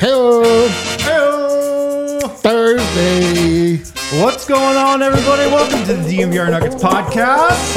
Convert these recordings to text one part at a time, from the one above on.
Hello. Hello. Thursday. What's going on, everybody? Welcome to the DNVR Nuggets podcast.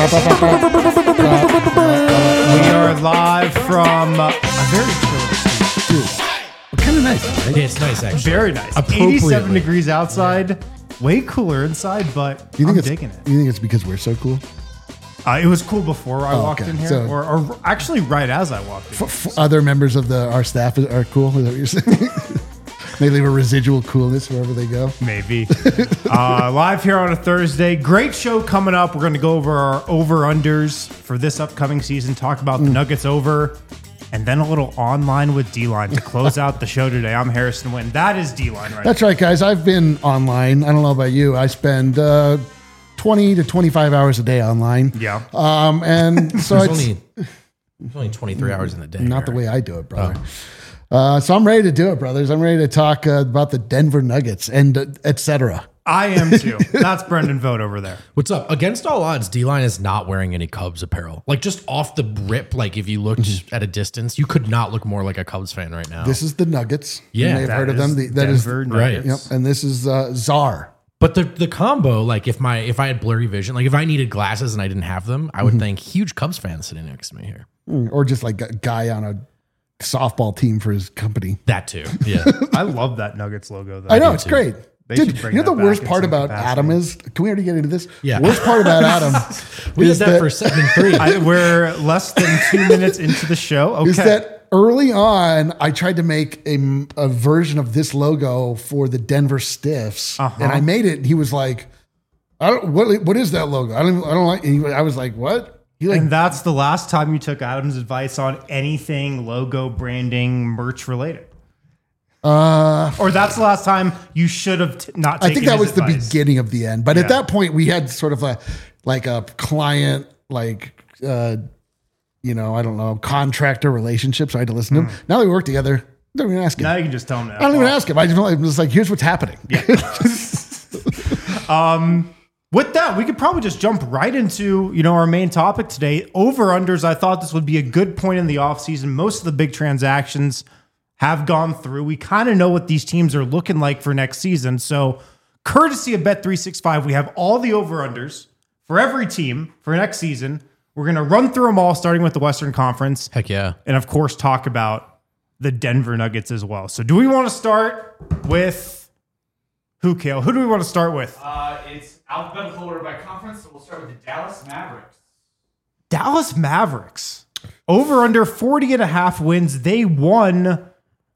We are live from a very chill studio. Kind of nice. Right? Yeah, it's nice, actually. Very nice. Appropriately. 87 degrees outside. Way cooler inside, but You think I'm digging it. You think it's because we're so cool? It was cool before I walked okay. in here, So- or actually right as I walked in. Other members of our staff are cool. Is that what you're saying? They leave a residual coolness wherever they go. Maybe. Live here on a Thursday. Great show coming up. We're going to go over our over-unders for this upcoming season, talk about the Nuggets over, and then a little online with D-Line to close out the show today. I'm Harrison Wynn. That is D-Line right That's right, guys. I've been online. I don't know about you. I spend 20 to 25 hours a day online. Yeah. And so There's only 23 hours in the day. not the way I do it, brother. So I'm ready to do it, brothers. I'm ready to talk about the Denver Nuggets and et cetera. I am too. That's Brendan Vogt over there. What's up? Against all odds, D-Line is not wearing any Cubs apparel. Like, just off the rip, like, if you looked at a distance, you could not look more like a Cubs fan right now. This is the Nuggets. Yeah, you may have That heard of is them. That is Denver right. Nuggets. Yep. And this is Czar. But the combo, like, if I had blurry vision, like, if I needed glasses and I didn't have them, I would think huge Cubs fan sitting next to me here. Or just like a guy on a softball team for his company. That too. Yeah. I love that Nuggets logo, though. I know, it's great. They Dude, should bring you know that the worst back in part some about capacity. Adam is, can we already get into this? Yeah. Worst part about Adam We is did that for 7-3. We're less than 2 minutes into the show. Okay. is that early on, I tried to make a version of this logo for the Denver Stiffs, and I made it. And he was like, "I don't. What is that logo? I don't like." And I was like, "What?" He like, And that's the last time you took Adam's advice on anything logo, branding, merch related. Or that's the last time you should have not taken I think that his was the advice. beginning of the end. But Yeah. at that point, we had sort of a client, I don't know, contractor relationship. So I had to listen to him. Now that we work together, don't even ask him. Now you can just tell him that. I don't even ask him. I'm just like, here's what's happening. With that, we could probably just jump right into, our main topic today. Over-unders, I thought this would be a good point in the offseason. Most of the big transactions have gone through. We kind of know what these teams are looking like for next season. So, courtesy of Bet365, we have all the over-unders for every team for next season. We're going to run through them all, starting with the Western Conference. Heck yeah. And, of course, talk about the Denver Nuggets as well. So, do we want to start with who, Kale? Who do we want to start with? It's alphabetical order by conference, so we'll start with the Dallas Mavericks. Dallas Mavericks. Over under 40.5 wins. They won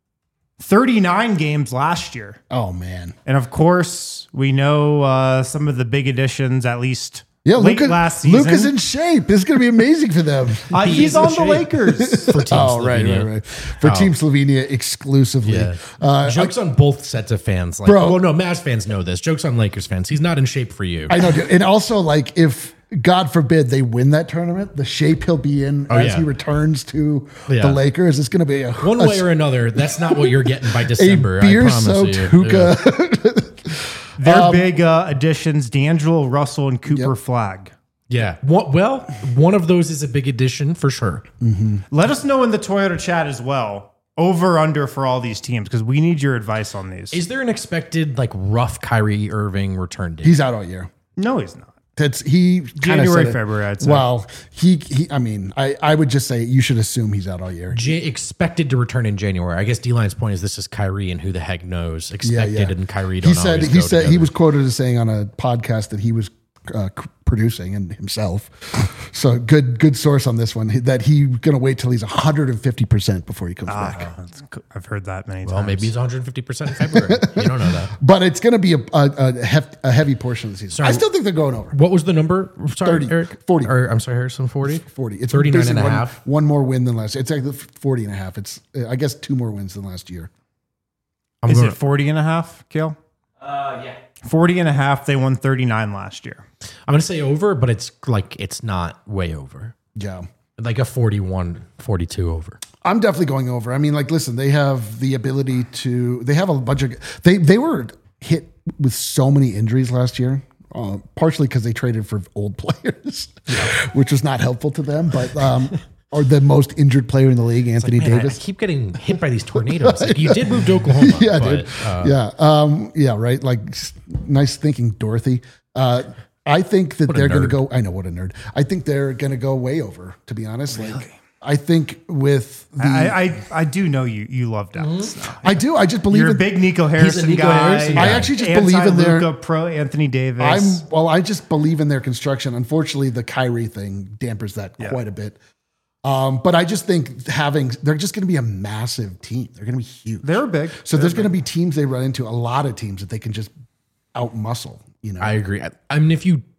39 games last year. Oh, man. And of course, we know some of the big additions, at least Yeah, late last season. Luke is in shape. This is going to be amazing for them. He's is in on the shape. Lakers. For Team Slovenia. right. For Team Slovenia exclusively. Yeah. Jokes on both sets of fans. Like, Bro. well, no, Mavs fans know this. Jokes on Lakers fans. He's not in shape for you. I know. Dude. And also, like, if God forbid they win that tournament, the shape he'll be in as yeah. he returns to Yeah. the Lakers, it's going to be One way or another, that's not what you're getting by a December. I beer-soaked promise you. hookah. Their big additions, D'Angelo Russell and Cooper Flag. Yeah. One of those is a big addition for sure. Let us know in the Toyota chat as well. Over under for all these teams, because we need your advice on these. Is there an expected rough Kyrie Irving return date? He's out all year. No, he's not. He kinda January, said it. February, I'd say. Well, I would just say you should assume he's out all year. Expected to return in January. I guess D-Line's point is this is Kyrie, and who the heck knows? Expected and Kyrie don't He said always go he together. was quoted as saying on a podcast that he was producing and himself. So good source on this one that he's going to wait till he's 150% before he comes back. I've heard that many times. Well, maybe he's 150% in February. You don't know that. But it's going to be a heavy portion of the season. Sorry. I still think they're going over. What was the number? Sorry, 30, Eric? 40. Or, I'm sorry, Harrison, 40? 40. It's 39 and basically a half. one more win than last year. It's actually 40 and a half. It's, I guess, 2 more wins than last year. Is it 40 and a half, Kale? Yeah. 40 and a half. They won 39 last year. I'm going to say over, but it's not way over. Yeah. Like a 41, 42 over. I'm definitely going over. I mean, listen, they have the ability to, they have a bunch of, they were hit with so many injuries last year. Partially because they traded for old players, which was not helpful to them. But or the most injured player in the league, Anthony Man, I Davis. keep getting hit by these tornadoes. Like, you did move to Oklahoma. Yeah, but, dude. Yeah, right. Like, nice thinking, Dorothy. I think that they're going to go. I know, what a nerd. I think they're going to go way over. To be honest, like I think with the, I do know you love Dallas. Now. I do. I just believe You're a in, big Nico Harrison Nico guy. Harrison guy. I actually just believe in their. Luka, pro Anthony Davis. I just believe in their construction. Unfortunately, the Kyrie thing dampers that quite a bit. But I just think they're just going to be a massive team. They're going to be huge. They're big. So there's going to be teams they run into, a lot of teams that they can just outmuscle. You know, I agree. I mean, if you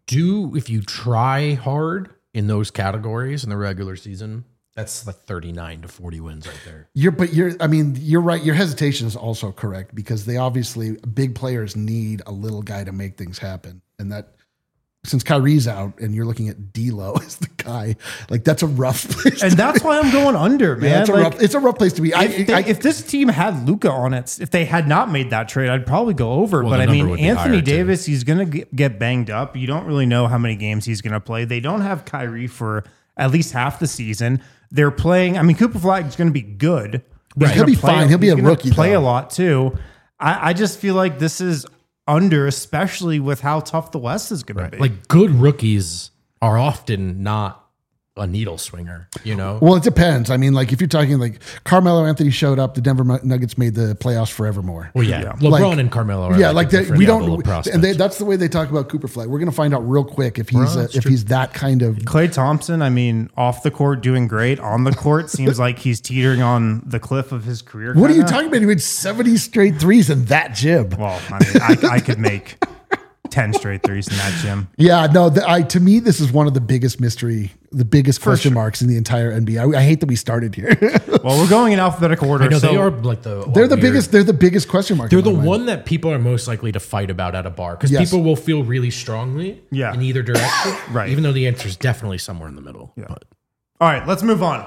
try hard in those categories in the regular season, that's like 39 to 40 wins right there. You're right. Your hesitation is also correct because they obviously, big players need a little guy to make things happen. And that, since Kyrie's out and you're looking at D'Lo as the guy, like that's a rough place. And that's why I'm going under, man. Yeah, it's a rough place to be. If this team had Luka on it, if they had not made that trade, I'd probably go over. Well, but I the mean, number would be Anthony higher, too. Davis, he's going to get banged up. You don't really know how many games he's going to play. They don't have Kyrie for at least half the season. They're playing. I mean, Cooper Flag's going to be good. He'll be fine. He'll be a rookie. Play though. a lot too. I just feel like this is under, especially with how tough the West is going to be. Like, good rookies are often not a needle swinger, you know? Well, it depends. I mean, like if you're talking like Carmelo Anthony showed up, the Denver Nuggets made the playoffs forevermore. Well, yeah. LeBron Like- and Carmelo are Yeah, like like a that. different We level don't, of prospects. and that's the way they talk about Cooper Flag. We're going to find out real quick if he's that kind of. Klay Thompson, I mean, off the court doing great. On the court, seems like he's teetering on the cliff of his career. What are you kinda. talking about? He made 70 straight threes in that gym. Well, I mean, I could make 10 straight threes in that gym. Yeah, no. To me, this is one of the biggest question marks in the entire NBA. I hate that we started here. Well, we're going in alphabetical order. I know, so they are like the They're the weird- biggest. They're the biggest question mark. They're in the my mind. one that people are most likely to fight about at a bar because Yes. people will feel really strongly Yeah. in either direction. Right. Even though the answer is definitely somewhere in the middle. Yeah. But All right, let's move on.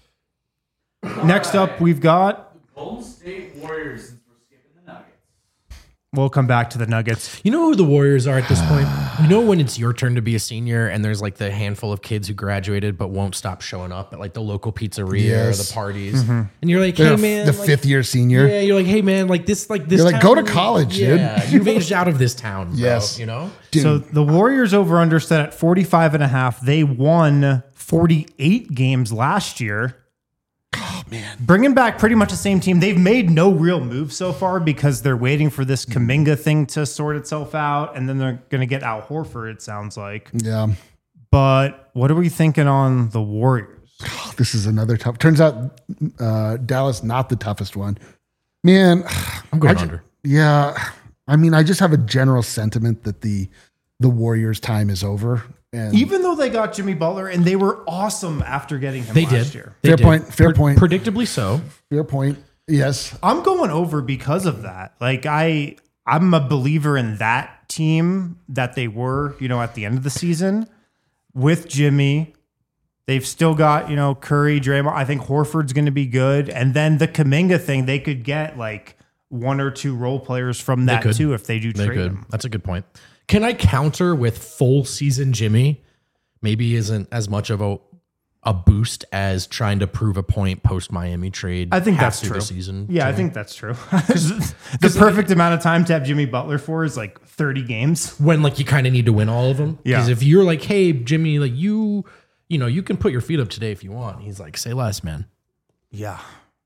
Next up, we've got. Golden State Warriors, since we're skipping the Nuggets. We'll come back to the Nuggets. you know who the Warriors are at this point? You know when it's your turn to be a senior and there's like the handful of kids who graduated but won't stop showing up at like the local pizzeria Yes. or the parties. And you're like, They're hey man. the like, fifth year senior. Yeah, you're like, hey man, like this You're like, go to college, dude. yeah, you've aged out of this town, bro, Yes. you know? Dude, So the Warriors over under set at 45.5. They won 48 games last year. oh man, Bringing back pretty much the same team. They've made no real move so far because they're waiting for this Kuminga thing to sort itself out. And then they're going to get Al Horford, it sounds like. yeah. But what are we thinking on the Warriors? This is another tough. Turns out Dallas not the toughest one. Man, I'm going under. Yeah, I mean, I just have a general sentiment that the Warriors' time is over. And Even though they got Jimmy Butler and they were awesome after getting him They last did. year. They Fair did. point, fair point. Predictably so. fair point. Yes, I'm going over because of that. Like I'm a believer in that team that they were, at the end of the season with Jimmy. They've still got, Curry, Draymond. I think Horford's going to be good. And then the Kuminga thing, they could get like one or two role players from that could. too if they do They trade could. them. That's a good point. Can I counter with full season Jimmy? Maybe isn't as much of a boost as trying to prove a point post Miami trade. I think half that's through true. The season. Yeah, I think that's true. The perfect amount of time to have Jimmy Butler for is like 30 games. When like you kind of need to win all of them. Yeah. Because if you're like, hey Jimmy, like you can put your feet up today if you want. He's like, say less, man. Yeah.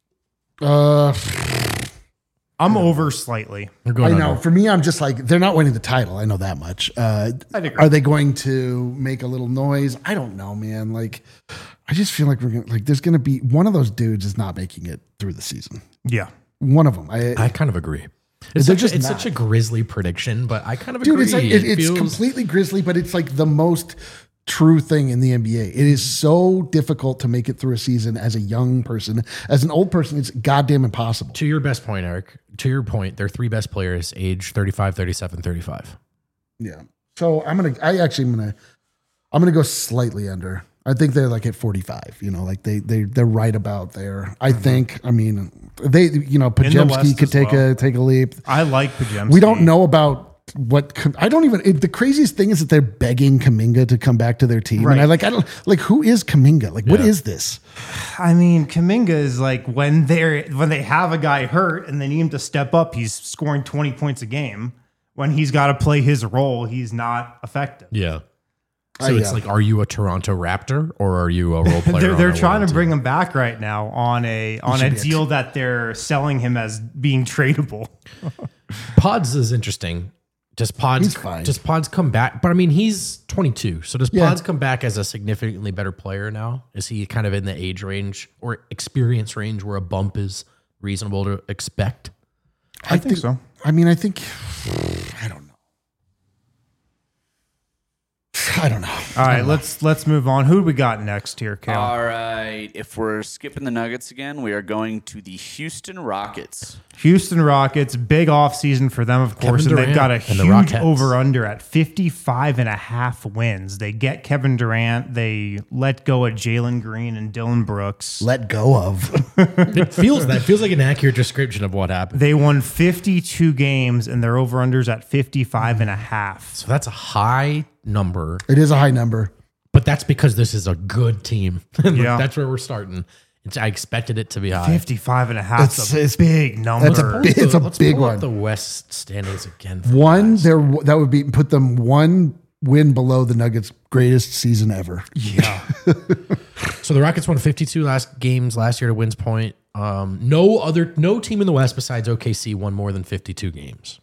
uh, I'm over slightly. You're I going know. under. For me, I'm just like they're not winning the title. I know that much. agree. Are they going to make a little noise? I don't know, man. Like, I just feel like there's gonna be one of those dudes is not making it through the season. Yeah. One of them. I kind of agree. It's They're such, just it's not. such a grisly prediction, but I kind of Dude, agree. it's like it's feels- completely grisly, but it's like the most true thing in the NBA. It is so difficult to make it through a season as a young person. As an old person, it's goddamn impossible. To your best point, Eric, to your point, their three best players age 35, 37, 35. Yeah. So I'm gonna go slightly under. I think they're like at 45. Like they're right about there. I think. I mean, Pajemski West could as well. take a leap. I like Podziemski. We don't know about I don't even. The craziest thing is that they're begging Kuminga to come back to their team, Right. and I don't like who is Kuminga? Like, what is this? I mean, Kuminga is like when they have a guy hurt and they need him to step up, he's scoring 20 points a game. When he's got to play his role, he's not effective. Yeah. So it's like, are you a Toronto Raptor or are you a role player? They're trying to bring him back right now on a deal that they're selling him as being tradable. Pods is interesting. Does Pods come back? But I mean, he's 22. So does Pods come back as a significantly better player now? Is he kind of in the age range or experience range where a bump is reasonable to expect? I think so. I mean, I don't know. All right, let's move on. Who do we got next here, Kale? All right. If we're skipping the Nuggets again, we are going to the Houston Rockets. Houston Rockets, big offseason for them, of course, and they've got a huge over-under at 55.5 wins. They get Kevin Durant. They let go of Jalen Green and Dylan Brooks. Let go of. That feels like an accurate description of what happened. They won 52 games, and their over-under's at 55.5. So that's a high number. It is a high number. But that's because this is a good team. Yeah. That's where we're starting. I expected it to be high. 55.5 is a big number. It's a big pull one. up the West standings again. That would be put them one win below the Nuggets' greatest season ever. Yeah. So the Rockets won 52 games last year to Wynn's point. No team in the West besides OKC won more than 52 games.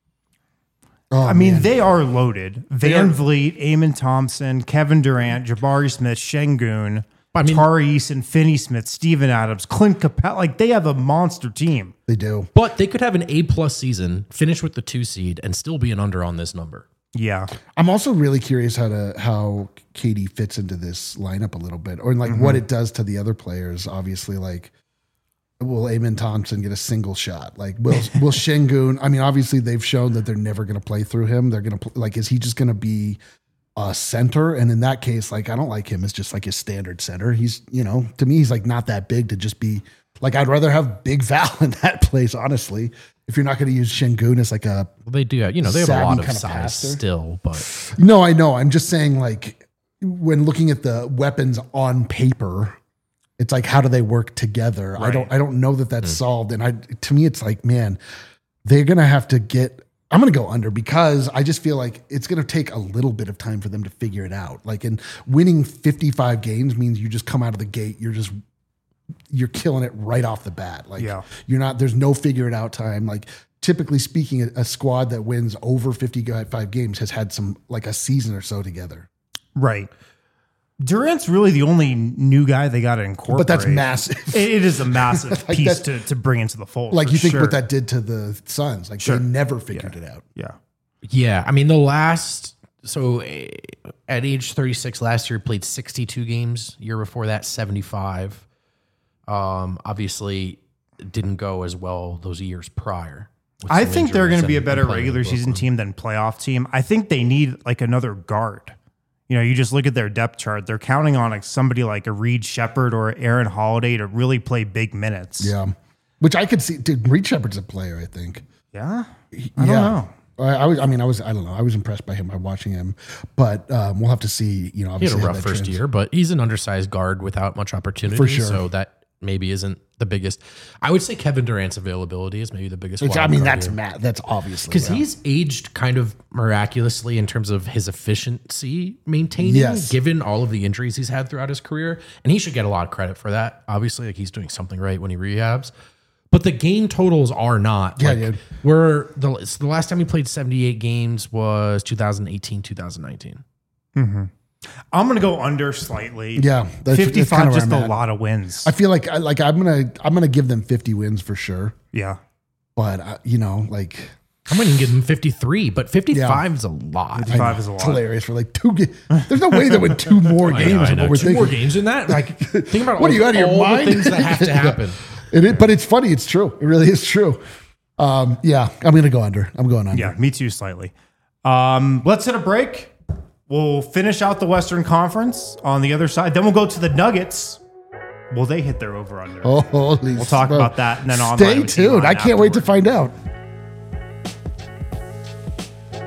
Oh, I mean, they are loaded. Van Vliet, Eamon Thompson, Kevin Durant, Jabari Smith, Şengün, Tari Eason, Finney Smith, Steven Adams, Clint Capella. Like, they have a monster team. They do. But they could have an A+ season, finish with the 2 seed, and still be an under on this number. Yeah. I'm also really curious how KD fits into this lineup a little bit, or like what it does to the other players. Obviously, like, will Eamon Thompson get a single shot? Like, will Şengün? I mean, obviously they've shown that they're never going to play through him. They're going to is he just going to be a center? And in that case, like, I don't like him as just like his standard center. He's, to me, he's like not that big to just be like, I'd rather have Big Val in that place, honestly. If you're not going to use Şengün as like a, well, they do, they have a lot of size passer. still, but no, I know. I'm just saying, like, when looking at the weapons on paper, it's like, how do they work together? Right. I don't know that that's solved. And to me, it's like, man, they're going to have to I'm going to go under because I just feel like it's going to take a little bit of time for them to figure it out. Like, and winning 55 games means you just come out of the gate. You're killing it right off the bat. Like, there's no figure it out time. Like, typically speaking, a squad that wins over 55 games has had a season or so together. Right. Durant's really the only new guy they got to incorporate. But that's massive. It is a massive like piece to bring into the fold. Like, you think what that did to the Suns. Like, they never figured it out. Yeah. Yeah. I mean, at age 36 last year, played 62 games. Year before that, 75. Obviously, didn't go as well those years prior. I think they're going to be a better regular season team than playoff team. I think they need like another guard. You just look at their depth chart. They're counting on like somebody like a Reed Shepherd or Aaron Holiday to really play big minutes. Yeah. Which I could see. Dude, Reed Shepherd's a player, I think. Yeah? I don't know. I don't know. I was impressed by him by watching him, but we'll have to see, obviously. He had a rough first year, but he's an undersized guard without much opportunity. For sure. So that maybe isn't the biggest. I would say Kevin Durant's availability is maybe the biggest. That's obviously. Because he's aged kind of miraculously in terms of his efficiency maintaining, given all of the injuries he's had throughout his career. And he should get a lot of credit for that. Obviously, like, he's doing something right when he rehabs. But the game totals are not. Yeah, like, dude. The last time he played 78 games was 2018, 2019. Mm-hmm. I'm going to go under slightly. Yeah. 55, just a lot of wins. I feel like I'm going to give them 50 wins for sure. Yeah. But, I'm going to give them 53, but 55 is a lot. 55 is a lot. It's hilarious for like 2 games. There's no way they win 2 more games. I know. 2 more games in that? Like, think about what are you out of your mind? The things that have to happen. But it's funny. It's true. It really is true. I'm going to go under. I'm going under. Yeah, me too, slightly. Let's hit a break. We'll finish out the Western Conference on the other side. Then we'll go to the Nuggets. Will they hit their over-under? Oh, holy We'll talk about that and then on. Stay tuned. I can't wait to find out.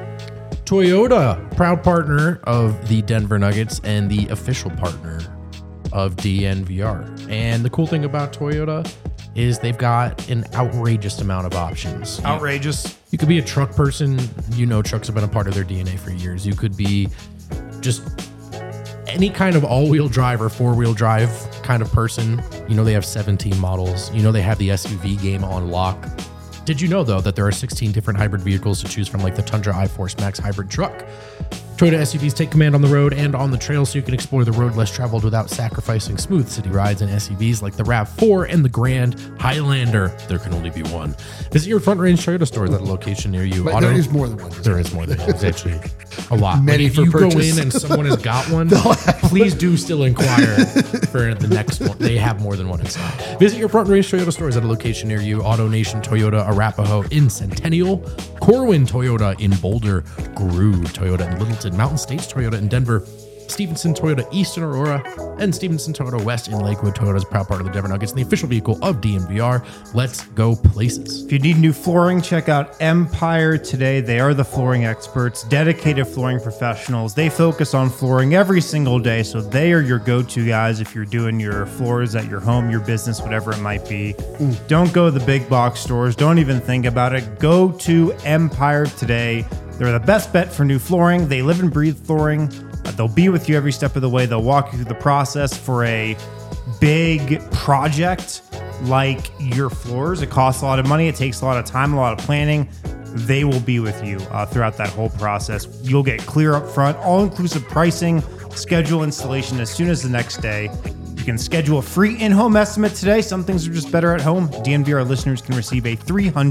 Toyota, proud partner of the Denver Nuggets and the official partner of DNVR. And the cool thing about Toyota is they've got an outrageous amount of options. Outrageous. You could be a truck person. You know, trucks have been a part of their DNA for years. You could be just any kind of all-wheel drive or four-wheel drive kind of person. You know, they have 17 models. You know, they have the SUV game on lock. Did you know, though, that there are 16 different hybrid vehicles to choose from, like the Tundra iForce Max hybrid truck? Toyota SUVs take command on the road and on the trail, so you can explore the road less traveled without sacrificing smooth city rides. And SUVs like the RAV4 and the Grand Highlander. There can only be one. Visit your Front Range Toyota stores at a location near you. But there is more than one. There is more than one. It's actually a lot. Many if for you purchase. go in and someone has got one, please do still inquire for the next one. They have more than one in stock. Visit your Front Range Toyota stores at a location near you. Auto Nation Toyota Arapahoe in Centennial, Corwin Toyota in Boulder, Grew Toyota in Littleton, Mountain States Toyota in Denver, Stevenson Toyota East in Aurora, and Stevenson Toyota West in Lakewood. Toyota is a proud part of the Denver Nuggets and the official vehicle of DNVR. Let's go places. If you need new flooring, check out Empire today. They are the flooring experts, dedicated flooring professionals. They focus on flooring every single day, so they are your go-to guys if you're doing your floors at your home, your business, whatever it might be. Don't go to the big box stores. Don't even think about it. Go to Empire today. They're the best bet for new flooring. They live and breathe flooring. They'll be with you every step of the way. They'll walk you through the process for a big project like your floors. It costs a lot of money. It takes a lot of time, a lot of planning. They will be with you throughout that whole process. You'll get clear up front, all-inclusive pricing, schedule installation as soon as the next day. You can schedule a free in-home estimate today. Some things are just better at home. DNVR listeners can receive a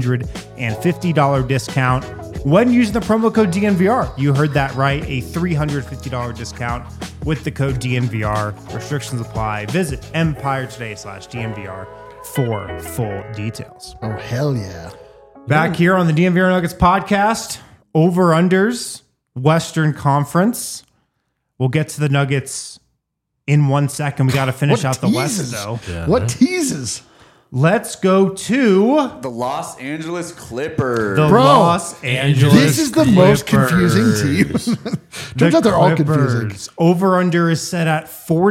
$350 discount when using the promo code DNVR. You heard that right, a $350 discount with the code DNVR. Restrictions apply. Visit empiretoday.com/DNVR for full details. Oh, hell yeah. Back here on the DNVR Nuggets podcast, over-unders, Western Conference. We'll get to the Nuggets in 1 second. We got to finish out the West, though. Yeah. What teases? Let's go to The Los Angeles Clippers. the Bro, Los Angeles This is the most confusing Clippers. team. Turns out they're all confusing. Over-under is set at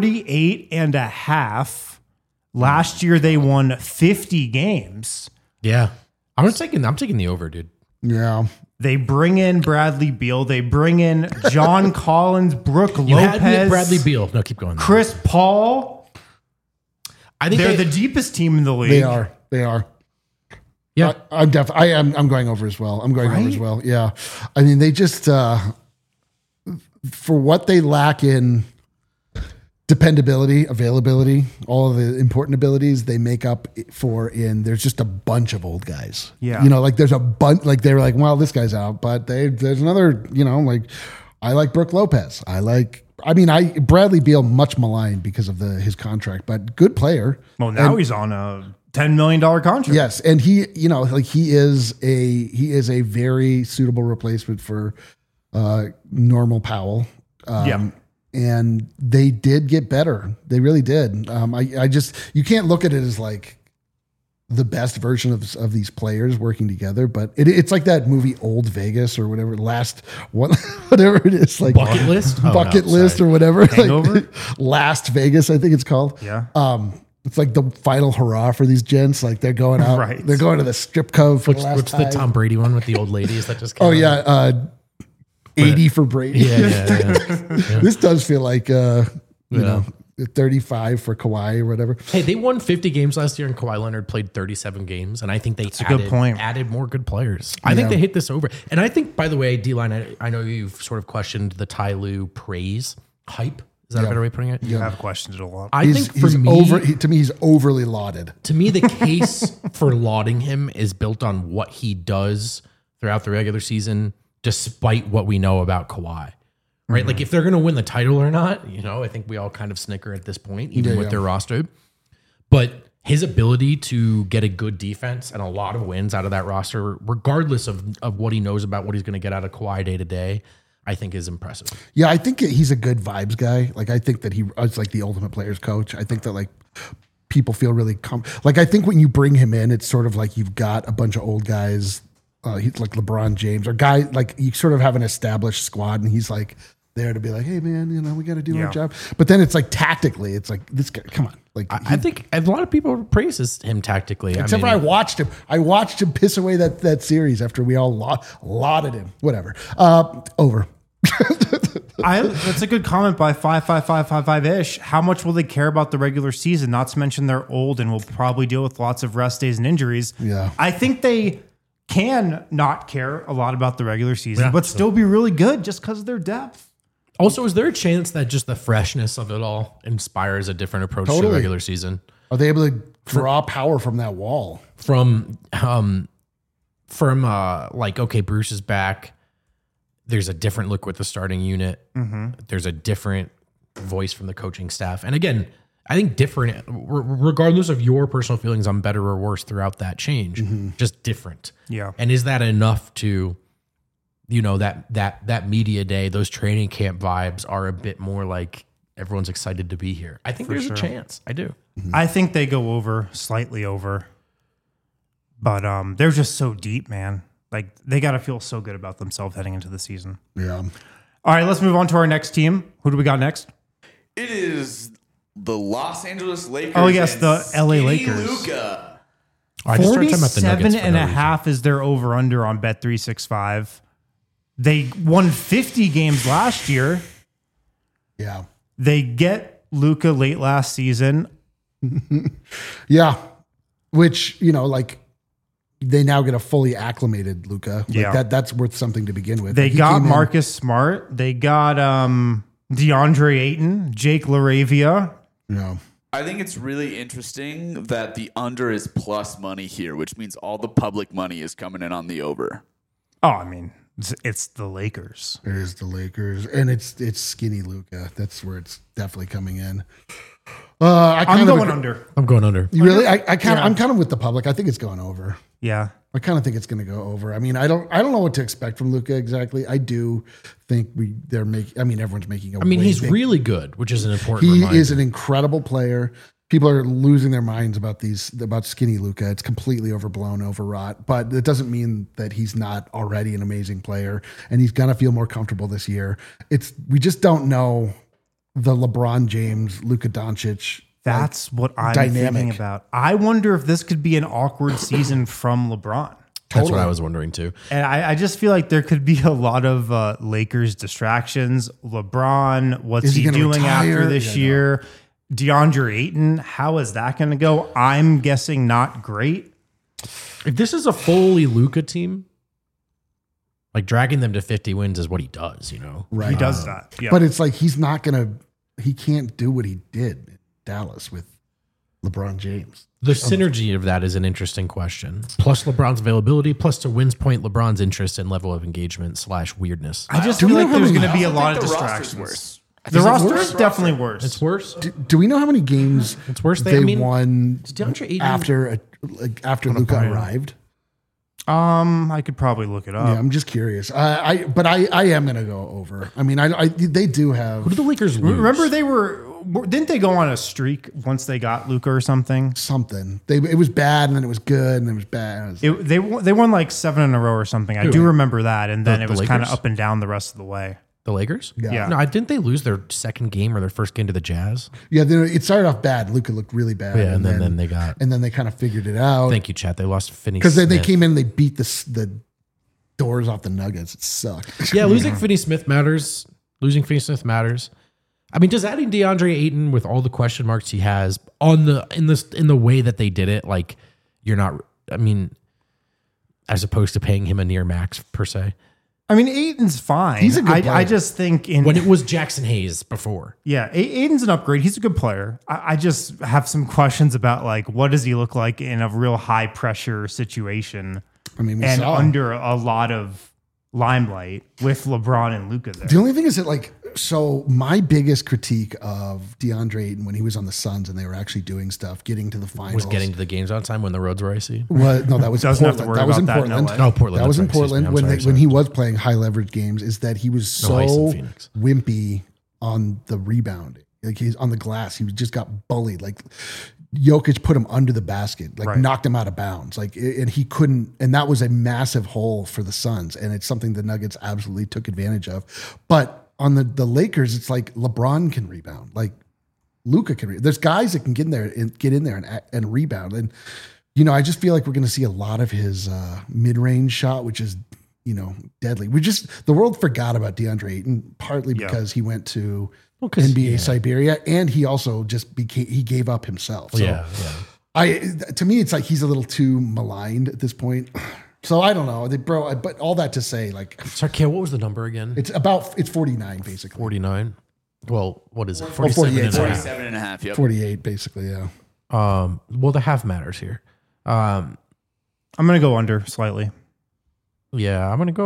48.5. Last year, they won 50 games. Yeah. I'm taking the over, dude. Yeah. They bring in Bradley Beal. They bring in John Collins, Brooke You Lopez, had me at Bradley Beal. No, keep going. Chris Paul. I think They're the deepest team in the league. They are. They are. Yeah. I'm going over as well. I'm going over as well. Yeah. I mean, they just, for what they lack in dependability, availability, all of the important abilities they make up for in, there's just a bunch of old guys. Yeah. You know, like there's a bunch, like they were like, well, this guy's out, but there's another, you know, like I like Brooke Lopez. Bradley Beal, much maligned because of his contract, but good player. Well, now he's on a $10 million contract. Yes, and he, you know, like he is a very suitable replacement for Normal Powell. And they did get better. They really did. You can't look at it as like the best version of these players working together, but it's like that movie Old Vegas or whatever, whatever it is, like Bucket List? Oh, Bucket no, List sorry. or whatever. Hangover? Like, Last Vegas, I think it's called. Yeah. It's like the final hurrah for these gents. Like they're going out, Right. they're going to the strip club for the last What's the time. Tom Brady one with the old ladies that just came Oh out? yeah, 80 for Brady. Yeah. This does feel like you know, 35 for Kawhi or whatever. Hey, they won 50 games last year, and Kawhi Leonard played 37 games, and I think they a good point. added more good players. I think they hit this over. And I think, by the way, D-Line, I know you've sort of questioned the Ty Lue praise hype. Is that a better way of putting it? You have questioned it a lot. I think for me, to me, he's overly lauded. to me, the case for lauding him is built on what he does throughout the regular season, despite what we know about Kawhi. Right? Like if they're going to win the title or not, you know, I think we all kind of snicker at this point, even with their roster. But his ability to get a good defense and a lot of wins out of that roster, regardless of what he knows about what he's going to get out of Kawhi day to day, I think is impressive. Yeah, I think he's a good vibes guy. Like I think that it's like the ultimate players coach. I think that like people feel really like I think when you bring him in, it's sort of like you've got a bunch of old guys he's like LeBron James or guy, like you sort of have an established squad and he's like there to be like, hey man, we got to do our job. But then it's like tactically, it's like this guy, come on. Like I think a lot of people praises him tactically. Except for I watched him. I watched him piss away that series after we all lauded him. Whatever. Over. That's a good comment by 55555-ish. How much will they care about the regular season? Not to mention they're old and will probably deal with lots of rest days and injuries. Yeah. I think they can not care a lot about the regular season, but still be really good just because of their depth. Also, is there a chance that just the freshness of it all inspires a different approach to the regular season? Are they able to draw power from that wall? From like, okay, Bruce is back. There's a different look with the starting unit. Mm-hmm. There's a different voice from the coaching staff. And again, I think different, regardless of your personal feelings on better or worse throughout that change, just different. Yeah. And is that enough to, that media day, those training camp vibes are a bit more like everyone's excited to be here? I think there's a chance. I do. Mm-hmm. I think they go over, slightly over. But they're just so deep, man. Like, they got to feel so good about themselves heading into the season. Yeah. All right, let's move on to our next team. Who do we got next? It is the Los Angeles Lakers. Oh, yes, the LA Lakers. Luka. 47.5 is their over-under on Bet365. They won 50 games last year. Yeah. They get Luka late last season. Yeah. Which, they now get a fully acclimated Luka. That's worth something to begin with. They got Marcus Smart. They got DeAndre Ayton, Jake LaRavia. Yeah. I think it's really interesting that the under is plus money here, which means all the public money is coming in on the over. Oh, I mean, it's the Lakers. It is the Lakers, and it's skinny Luka. That's where it's definitely coming in. I'm going under. I'm going under. You really? I'm kind of with the public. I think it's going over. Yeah. I kind of think it's going to go over. I mean, I don't know what to expect from Luka exactly. I do think everyone's making he's really good, which is an important He reminder. is an incredible player. People are losing their minds about skinny Luka. It's completely overblown, overwrought, but it doesn't mean that he's not already an amazing player, and he's going to feel more comfortable this year. We just don't know the LeBron James, Luka Doncic. That's what I'm thinking about. I wonder if this could be an awkward season from LeBron. That's what I was wondering too. And I just feel like there could be a lot of Lakers distractions. LeBron, what's he doing after this year? No. DeAndre Ayton, how is that going to go? I'm guessing not great. If this is a fully Luka team, like dragging them to 50 wins is what he does, Right. He does that. Yeah. But it's like he can't do what he did in Dallas with LeBron James. The synergy of that is an interesting question. Plus LeBron's availability, plus to Wynn's point, LeBron's interest and level of engagement / weirdness. I just feel like there's going to be a lot of distractions. The roster is definitely worse. It's worse. Do we know how many games it's worse they won DeAndre after Luka arrived? I could probably look it up. Yeah, I'm just curious. I am going to go over. I mean, they do have. Who do the Lakers lose? Remember didn't they go on a streak once they got Luka or something? Something. It was bad and then it was good and then it was bad. They won like 7 in a row or something. I do remember that, and then it was kind of up and down the rest of the way. The Lakers? Yeah. No, didn't they lose their second game or their first game to the Jazz? Yeah, it started off bad. Luka looked really bad. Yeah, and then they got. And then they kind of figured it out. Thank you, chat. They lost Finney because they came in and they beat the doors off the Nuggets. It sucked. Yeah, losing Finney Smith matters. I mean, does adding DeAndre Ayton with all the question marks he has in the way that they did it, like you're not. I mean, as opposed to paying him a near max per se. I mean, Ayton's fine. He's a good player. I just think when it was Jackson Hayes before. Yeah, Ayton's an upgrade. He's a good player. I just have some questions about like what does he look like in a real high pressure situation. I mean, under a lot of limelight with LeBron and Luka there. The only thing is that so my biggest critique of DeAndre Ayton when he was on the Suns and they were actually doing stuff, getting to the finals, was getting to the games on time when the roads were icy. Well, no, that was in Portland. That was in Portland. Portland. That was in Portland when he was playing high leverage games. Is that he was so wimpy on the rebound, like he's on the glass. He just got bullied. Like Jokic put him under the basket, like Right. knocked him out of bounds. Like, and he couldn't, and that was a massive hole for the Suns. And it's something the Nuggets absolutely took advantage of. But on the Lakers, it's like LeBron can rebound. Like Luka can rebound. There's guys that can get in there and rebound. And, you know, I just feel like we're going to see a lot of his mid-range shot, which is, you know, deadly. The world forgot about DeAndre Ayton, partly because he went to NBA Siberia, and he also he gave up himself. So to me, it's like he's a little too maligned at this point. So I don't know, but all that to say, like, sorry, Kale, what was the number again? It's 49 basically. 49. Well, what is it? 48. 47 and a half. Yep. 48 basically. Yeah. Well, the half matters here. I'm going to go under slightly. Yeah, I'm going to go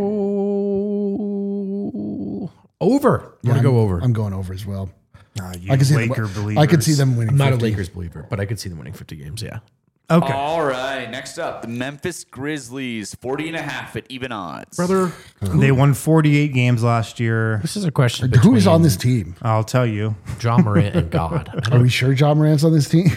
over. I'm going to go over. I'm going over as well. I can see I could see them winning. I'm not 50. a Lakers believer, but I could see them winning 50 games. Yeah. Okay. All right. Next up, the Memphis Grizzlies, 40.5 at even odds. Brother, They won 48 games last year. this is a question. Who is between on this team? I'll tell you. John Morant and God. Are we sure John Morant's on this team?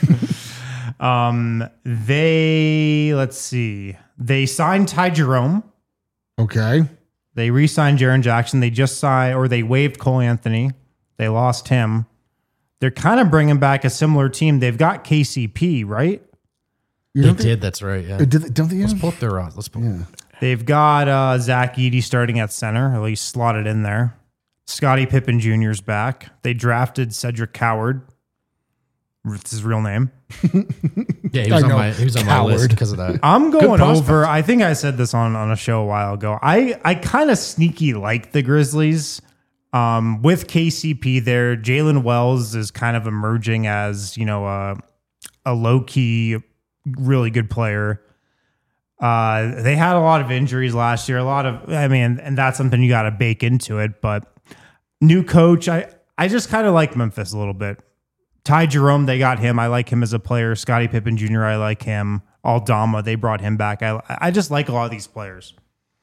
Let's see. They signed Ty Jerome. Okay. They re-signed Jaren Jackson. They waived Cole Anthony. They lost him. They're kind of bringing back a similar team. They've got KCP, right? They did. That's right. Yeah. Don't they? Let's pull up their odds. Let's pull. Yeah. They've got Zach Edey starting at center, at least slotted in there. Scottie Pippen Jr.'s back. They drafted Cedric Coward. It's his real name. Yeah, he was on my list because of that. I'm going prospect. over. I think I said this on a show a while ago. I kind of sneaky like the Grizzlies. With KCP there, Jalen Wells is kind of emerging as, you know, a low-key, really good player. They had a lot of injuries last year. And that's something you got to bake into it. But new coach, I just kind of like Memphis a little bit. Ty Jerome, they got him. I like him as a player. Scottie Pippen Jr., I like him. Aldama, they brought him back. I just like a lot of these players.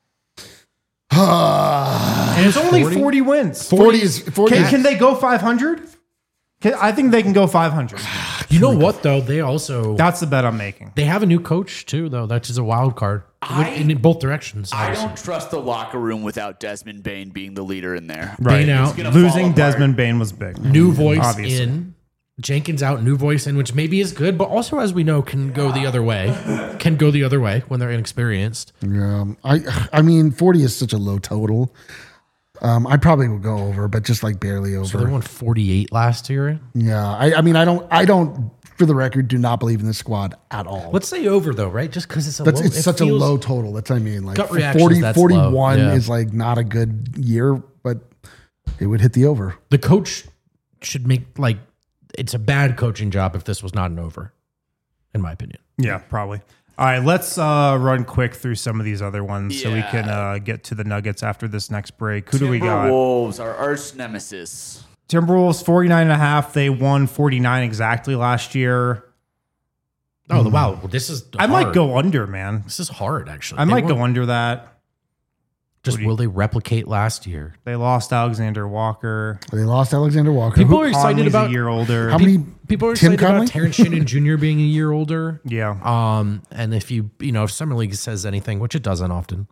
And it's only 40 wins. 40 is 40. Can they go 500? I think they can go 500. You know what though? They also That's the bet I'm making. they have a new coach too, though. That's just a wild card in both directions. I obviously. don't trust the locker room without Desmond Bane being the leader in there. Right. Bane out. It's gonna fall Losing apart. Desmond Bane was big. New voice Obviously. in, Jenkins out, new voice in, which maybe is good, but also as we know can go the other way. Can go the other way when they're inexperienced. Yeah. I mean, 40 is such a low total. I probably will go over, but just like barely over. So they won 48 last year. Yeah. I mean, I don't, for the record, do not believe in this squad at all. Let's say over though, right? Just because it's a It's low, it such a feels- low total. That's what I mean. Like Gut reactions, 40, that's 41 low. Yeah. is like not a good year, but it would hit the over. The coach should make it's a bad coaching job if this was not an over, in my opinion. Yeah, probably. All right, let's run quick through some of these other ones so we can get to the Nuggets after this next break. Who do we got? Timberwolves, our arch nemesis. Timberwolves 49.5. They won 49 exactly last year. Oh, wow. Well, this is I hard. might go under, man. This is hard, actually. I They might won't- go under that. Just will they replicate last year? They lost Alexander Walker. They lost Alexander Walker. People are excited Conley's about a year older. How many? people are Tim excited Conley? about Terrence Shannon Jr. being a year older. Yeah. And if if Summer League says anything, which it doesn't often,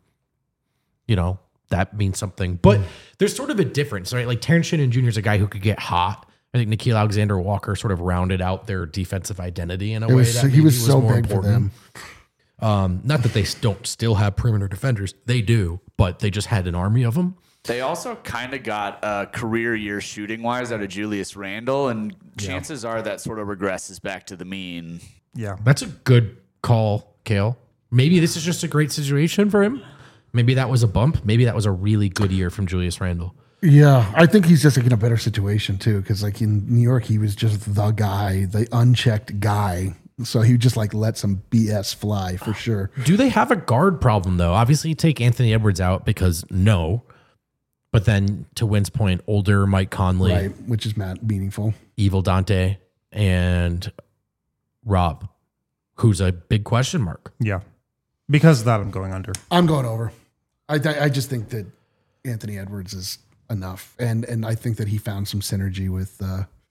that means something. But there's sort of a difference, right? Like Terrence Shannon Jr. is a guy who could get hot. I think Nickeil Alexander-Walker sort of rounded out their defensive identity in a way that He was maybe so more big for them. Not that they don't still have perimeter defenders. They do, but they just had an army of them. They also kind of got a career year shooting wise out of Julius Randle, and chances are that sort of regresses back to the mean. Yeah. That's a good call, Kale. Maybe this is just a great situation for him. Maybe that was a bump. Maybe that was a really good year from Julius Randle. Yeah, I think he's just in a better situation too, because like in New York, he was just the guy, the unchecked guy. So he would just like let some BS fly for sure. Do they have a guard problem though? Obviously, you take Anthony Edwards out because no. But then to Wynn's point, older Mike Conley, Right, which is meaningful. Evil Dante, and Rob, who's a big question mark. Yeah. Because of that, I'm going under. I'm going over. I just think that Anthony Edwards is enough, and I think that he found some synergy with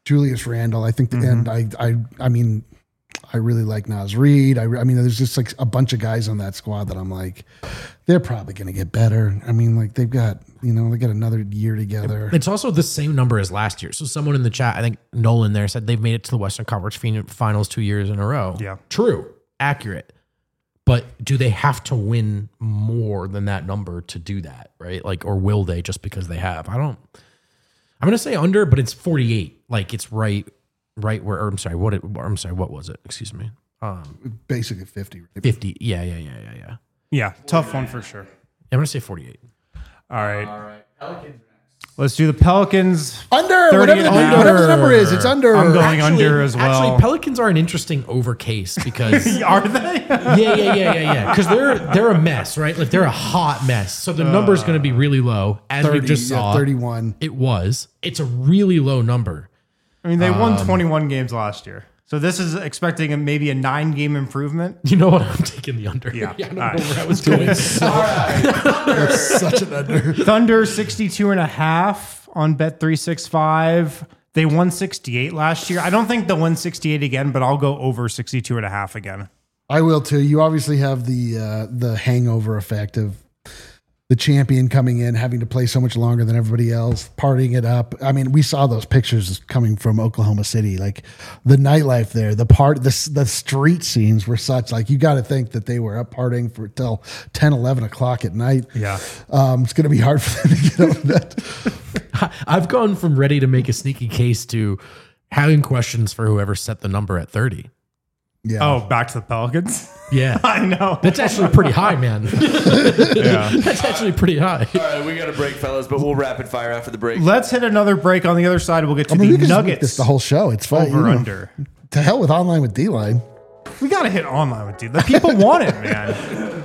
Julius Randle. I think, and I mean, I really like Naz Reid. I mean, there's just like a bunch of guys on that squad that I'm like, they're probably going to get better. I mean, like they got another year together. It's also the same number as last year. So someone in the chat, I think Nolan there, said they've made it to the Western Conference Finals 2 years in a row. Yeah. True. Accurate. But do they have to win more than that number to do that, right? Like, or will they just because they have? I'm going to say under, but it's 48. Like it's right where, or I'm sorry, what was it? Excuse me. Basically 50. Right? 50. Yeah. Yeah, tough one for sure. I'm going to say 48. All right. Pelicans. Let's do the Pelicans. Under, whatever the number is, it's under. I'm going under as well. Actually, Pelicans are an interesting over case because are they? Yeah. Because they're a mess, right? Like they're a hot mess. So the number is going to be really low, as we just saw. 31. It's a really low number. I mean, they won 21 games last year. So this is expecting maybe a 9-game improvement. You know what? I'm taking the under. Yeah. I don't know where I was going. That's such an under. Thunder 62.5 on Bet365. They won 68 last year. I don't think they'll win 68 again, but I'll go over 62.5 again. I will too. You obviously have the hangover effect of the champion coming in, having to play so much longer than everybody else, partying it up. I mean, we saw those pictures coming from Oklahoma City, like the nightlife there, the street scenes were such, like, you got to think that they were up partying for till 10, 11 o'clock at night. Yeah. It's going to be hard for them to get over that. I've gone from ready to make a sneaky case to having questions for whoever set the number at 30. Yeah. Oh, back to the Pelicans? Yeah. I know. That's actually pretty high, man. Yeah. That's actually pretty high. All right, we got a break, fellas, but we'll rapid fire after the break. Let's hit another break. On the other side, we'll get to we the can just make Nuggets. this the whole show. It's fine. Over under. To hell with online with D-Line. We got to hit online with D. The people want it, man.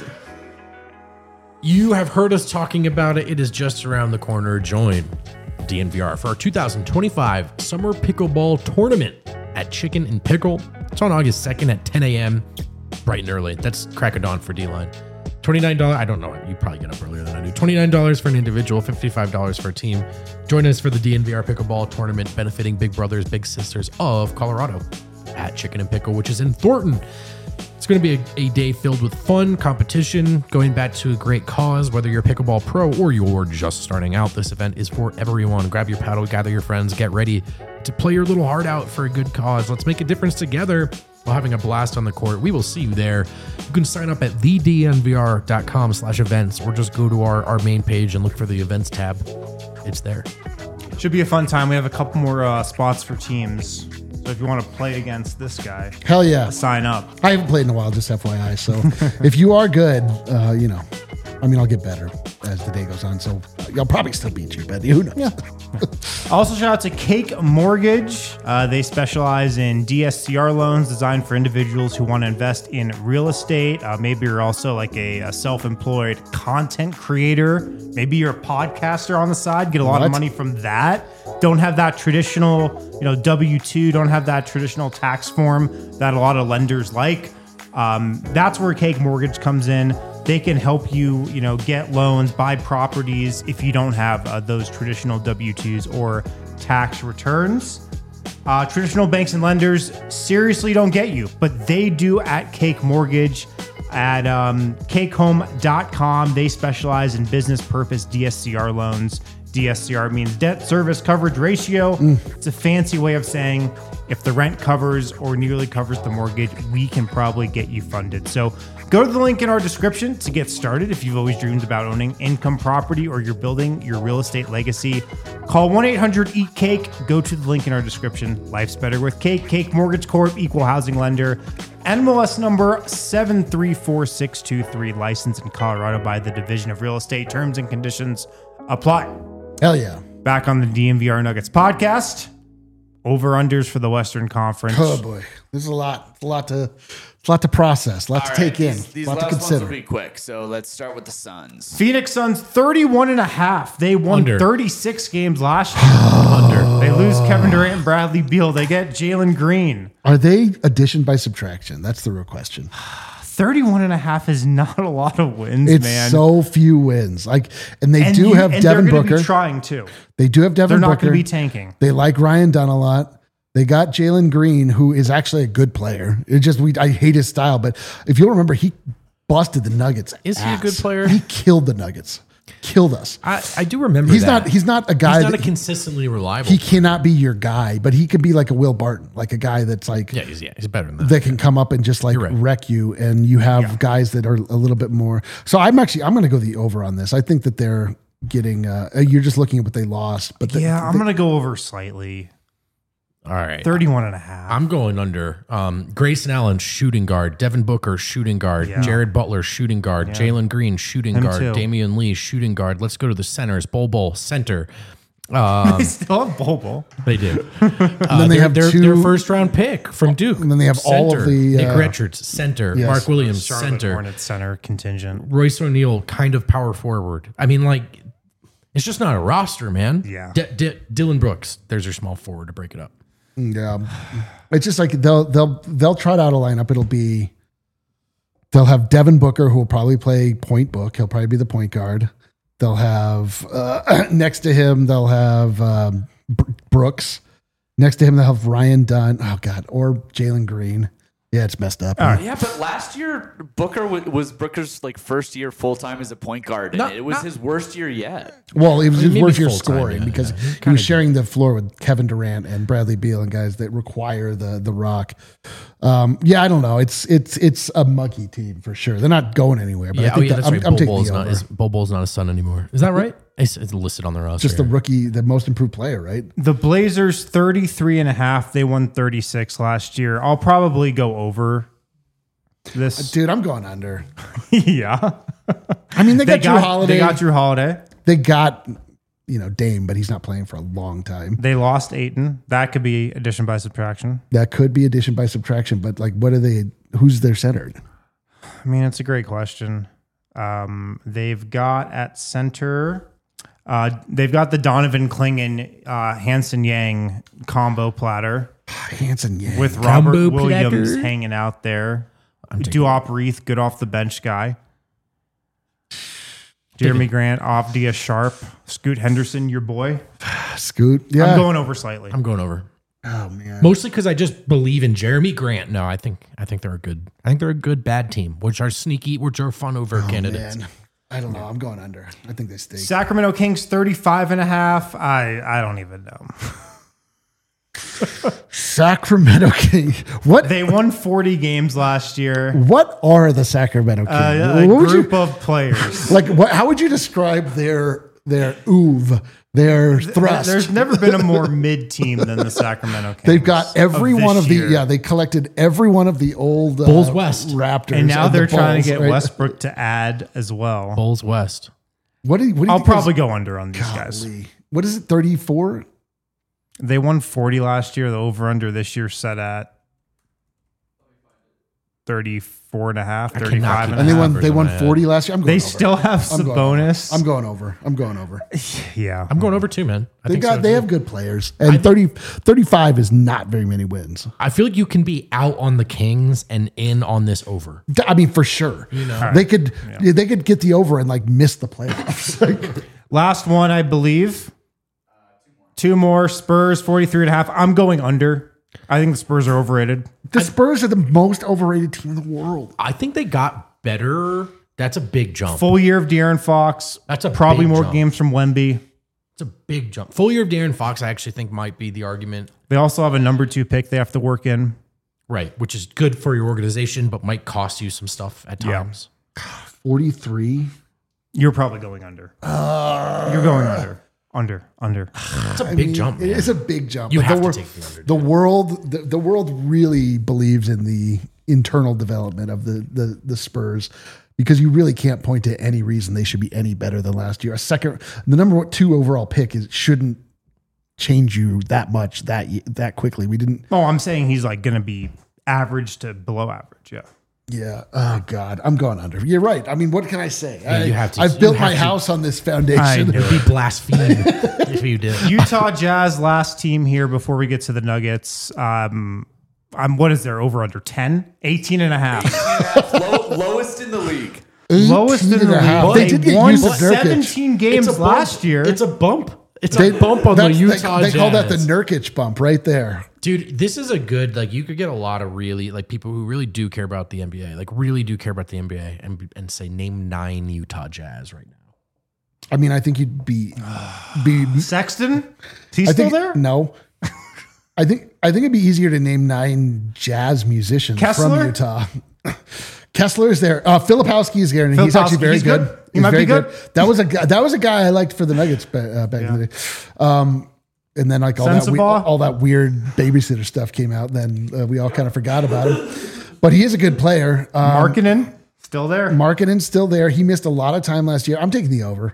You have heard us talking about it. It is just around the corner. Join DNVR for our 2025 Summer Pickleball Tournament at Chicken and Pickle. It's on August 2nd at 10 a.m. bright and early. That's crack of dawn for D-Line. $29. I don't know. You probably get up earlier than I do. $29 for an individual, $55 for a team. Join us for the DNVR Pickleball Tournament benefiting Big Brothers, Big Sisters of Colorado at Chicken and Pickle, which is in Thornton. It's going to be a day filled with fun, competition, going back to a great cause. Whether you're a pickleball pro or you're just starting out, this event is for everyone. Grab your paddle, gather your friends, get ready to play your little heart out for a good cause. Let's make a difference together while having a blast on the court. We will see you there. You can sign up at thednvr.com/events or just go to our main page and look for the events tab. It's there. Should be a fun time. We have a couple more spots for teams. So if you want to play against this guy, Hell yeah. sign up. I haven't played in a while, just FYI. So if you are good, I'll get better as the day goes on. So I'll probably still beat you, but who knows? Yeah. Also, shout out to Cake Mortgage. They specialize in DSCR loans designed for individuals who want to invest in real estate. Maybe you're also like a self-employed content creator. Maybe you're a podcaster on the side, get a lot of money from that. Don't have that traditional, W-2, don't have that traditional tax form that a lot of lenders like. That's where Cake Mortgage comes in. They can help you, get loans, buy properties if you don't have those traditional W-2s or tax returns. Traditional banks and lenders seriously don't get you, but they do at Cake Mortgage. At cakehome.com, they specialize in business purpose DSCR loans. DSCR means debt service coverage ratio. It's a fancy way of saying if the rent covers or nearly covers the mortgage, we can probably get you funded. So go to the link in our description to get started if you've always dreamed about owning income property or you're building your real estate legacy. Call 1-800-EAT-CAKE. Go to the link in our description. Life's better with Cake. Cake Mortgage Corp, equal housing lender. NMLS number 734623, licensed in Colorado by the Division of Real Estate. Terms and conditions apply. Hell yeah. Back on the DNVR Nuggets podcast. Over-unders for the Western Conference. Oh boy, this is a lot to process, a lot to take in, These a lot to last ones consider. will be quick. So let's start with the Suns. Phoenix Suns 31.5. They won Under. 36 games last year. Under. They lose Kevin Durant and Bradley Beal. They get Jalen Green. Are they addition by subtraction? That's the real question. 31.5 is not a lot of wins, It's man. so few wins. Like, and they do have and Devin they're gonna Booker. be trying too. They do have Devin They're not Booker. going to be tanking. They like Ryan Dunn a lot. They got Jalen Green, who is actually a good player. I hate his style, but if you'll remember, he busted the Nuggets. Is he a good player? He killed the Nuggets. Killed us. I do remember He's that. not a guy. He's not a that, consistently reliable. he cannot be your guy, but he could be like a Will Barton, like a guy that's like he's better than that. that can come up and just like right. wreck you. And you have guys that are a little bit more. So I'm going to go the over on this. I think that they're getting. You're just looking at what they lost, but I'm going to go over slightly. All right. 31.5. I'm going under. Grayson Allen, shooting guard. Devin Booker, shooting guard. Jared Butler, shooting guard. Jalen Green, shooting guard. too. Damian Lee, shooting guard. Let's go to the centers. Bol, center. They still have Bobo. They do. then they have their two- first round pick from Duke. And then they have all of Center. the, Nick Richards, center. yes. Mark Williams, Charlotte center. Hornets center contingent. Royce O'Neal, kind of power forward. I mean, like, it's just not a roster, man. Yeah. Dylan Brooks, there's your small forward to break it up. Yeah, it's just like they'll trot out a lineup. They'll have Devin Booker, who will probably play point book. He'll probably be the point guard. They'll have next to him. They'll have Brooks. Next to him, they'll have Ryan Dunn. Oh God, or Jalen Green. Yeah, it's messed up. Yeah, but last year Booker was Booker's like first year full time as a point guard, and it was his worst year yet. Well, it was his Maybe worst year full-time, scoring yeah, because yeah. he was sharing the floor with Kevin Durant and Bradley Beal and guys that require the rock. I don't know. It's a muggy team for sure. They're not going anywhere. But I think that's right. I'm taking Bobo's the not over. Bobo's not a Son anymore. Is that right? It's listed on the roster. Just the rookie, the most improved player, right? The Blazers 33.5. They won 36 last year. I'll probably go over this. Dude, I'm going under. Yeah. I mean, they got Drew Holiday. They got Drew Holiday. They got, Dame, but he's not playing for a long time. They lost Ayton. That could be addition by subtraction. That could be addition by subtraction, but like, who's their center? I mean, it's a great question. They've got at center, they've got the Donovan Clingan, Hanson Yang combo platter Hanson Yang. with Robert Combo Williams platter. hanging out there. Duop Reith, good off the bench guy. Jeremy Grant, Avdia Sharp, Scoot Henderson, your boy. Scoot. Yeah. I'm going over slightly. I'm going over. Oh man. Mostly because I just believe in Jeremy Grant. No, I think they're a good. I think they're a good bad team, which are sneaky, which are fun over candidates. Man. I don't know. I'm going under. I think they stay. Sacramento Kings 35.5. I don't even know. Sacramento Kings. What? They won 40 games last year. What are the Sacramento Kings? A What would group you, of players. like what? How would you describe their oeuvre, their thrust? There's never been a more mid team than the Sacramento Kings. They've got every this one of the year. They collected every one of the old Bulls West. Raptors, And now they're the trying to Bulls, get right? Westbrook to add as well. Bulls West. What do you I'll think probably go under on these guys. golly. What is it? 34? They won 40 last year. The over under this year set at 34.5, 35. And they won. Numbers They on won my head. 40 last year. I'm going. They over. still have I'm going Sabonis. I'm going over. I'm going over. Yeah. I'm going over too, man. They have good players, and 35 is not very many wins. I feel like you can be out on the Kings and in on this over. I mean, for sure, they could get the over and like miss the playoffs. Like, Last one, I believe. Two more. Spurs 43.5. I'm going under. I think the Spurs are overrated. the Spurs are the most overrated team in the world. I think they got better. That's a big jump. Full year of De'Aaron Fox. That's a probably big more jump. games from Wemby. It's a big jump. Full year of De'Aaron Fox, I actually think might be the argument. They also have a number 2 pick they have to work in. Right, which is good for your organization, but might cost you some stuff at Yeah. times. 43. You're probably going under. You're going under. Under. It's a big jump, man. It's a big jump. You but have the to take the under. The world really believes in the internal development of the Spurs because you really can't point to any reason they should be any better than last year. The number 2 overall pick shouldn't change you that much that quickly. We didn't. Oh, I'm saying he's like going to be average to below average. Yeah. Yeah. Oh God, I'm going under. You're right. I mean, what can I say? you have to- I've you built have my to. house on this I foundation. know. It'd be blasphemy if you did. Utah Jazz, last team here before we get to the Nuggets. what is there over under 10? 18 and a half. Lowest in the league. Lowest in the league. They did get won Yusuf Nurkic. 17 games last year. It's a bump. It's a bump on the Utah They call that the Jazz. Nurkic bump right there. Dude, this is a good, like, you could get a lot of really, like, people who really do care about the NBA, like, really do care about the NBA and say, name 9 Utah Jazz right now. I mean, I think you'd be Sexton? Is he still there? No. I think it'd be easier to name 9 jazz musicians Kessler? from Utah. Kessler is there. Filipowski is there, and he's actually very good. He He's might very be good. That was a guy I liked for the Nuggets back in the day. And then like all that weird babysitter stuff came out. Then we all kind of forgot about him. But he is a good player. Markkanen? Still there? Markkanen's still there. He missed a lot of time last year. I'm taking the over.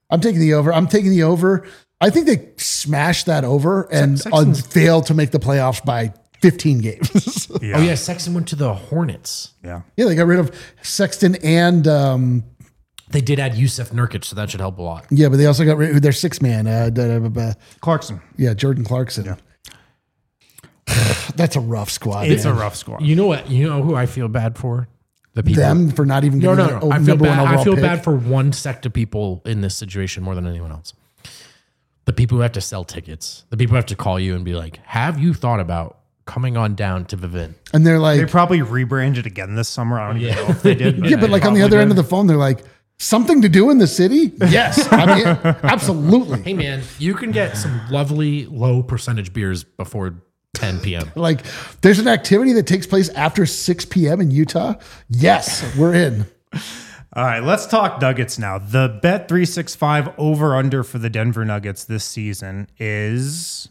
I think they smashed that over and failed to make the playoffs by 15 games. Yeah. Oh, yeah, Sexton went to the Hornets. Yeah. Yeah, they got rid of Sexton and They did add Yusuf Nurkic, so that should help a lot. yeah, but they also got rid of their 6 man. Clarkson. Yeah, Jordan Clarkson. Yeah. That's a rough squad. It's man. a rough squad. You know what? You know who I feel bad for? The people. Them for not even No. getting their I feel number one bad. overall I feel pick. bad for one sect of people in this situation more than anyone else. The people who have to sell tickets. The people who have to call you and be like, "Have you thought about coming on down to Vivint?" And they're like, They probably rebranded again this summer. I don't even know if they did. yeah, but like on the other end of the phone, they're like, something to do in the city? Yes. I mean, absolutely. Hey man, you can get some lovely low percentage beers before 10 p.m. Like, there's an activity that takes place after 6 p.m. in Utah. Yes, we're in. All right, let's talk Nuggets now. The Bet365 over-under for the Denver Nuggets this season is...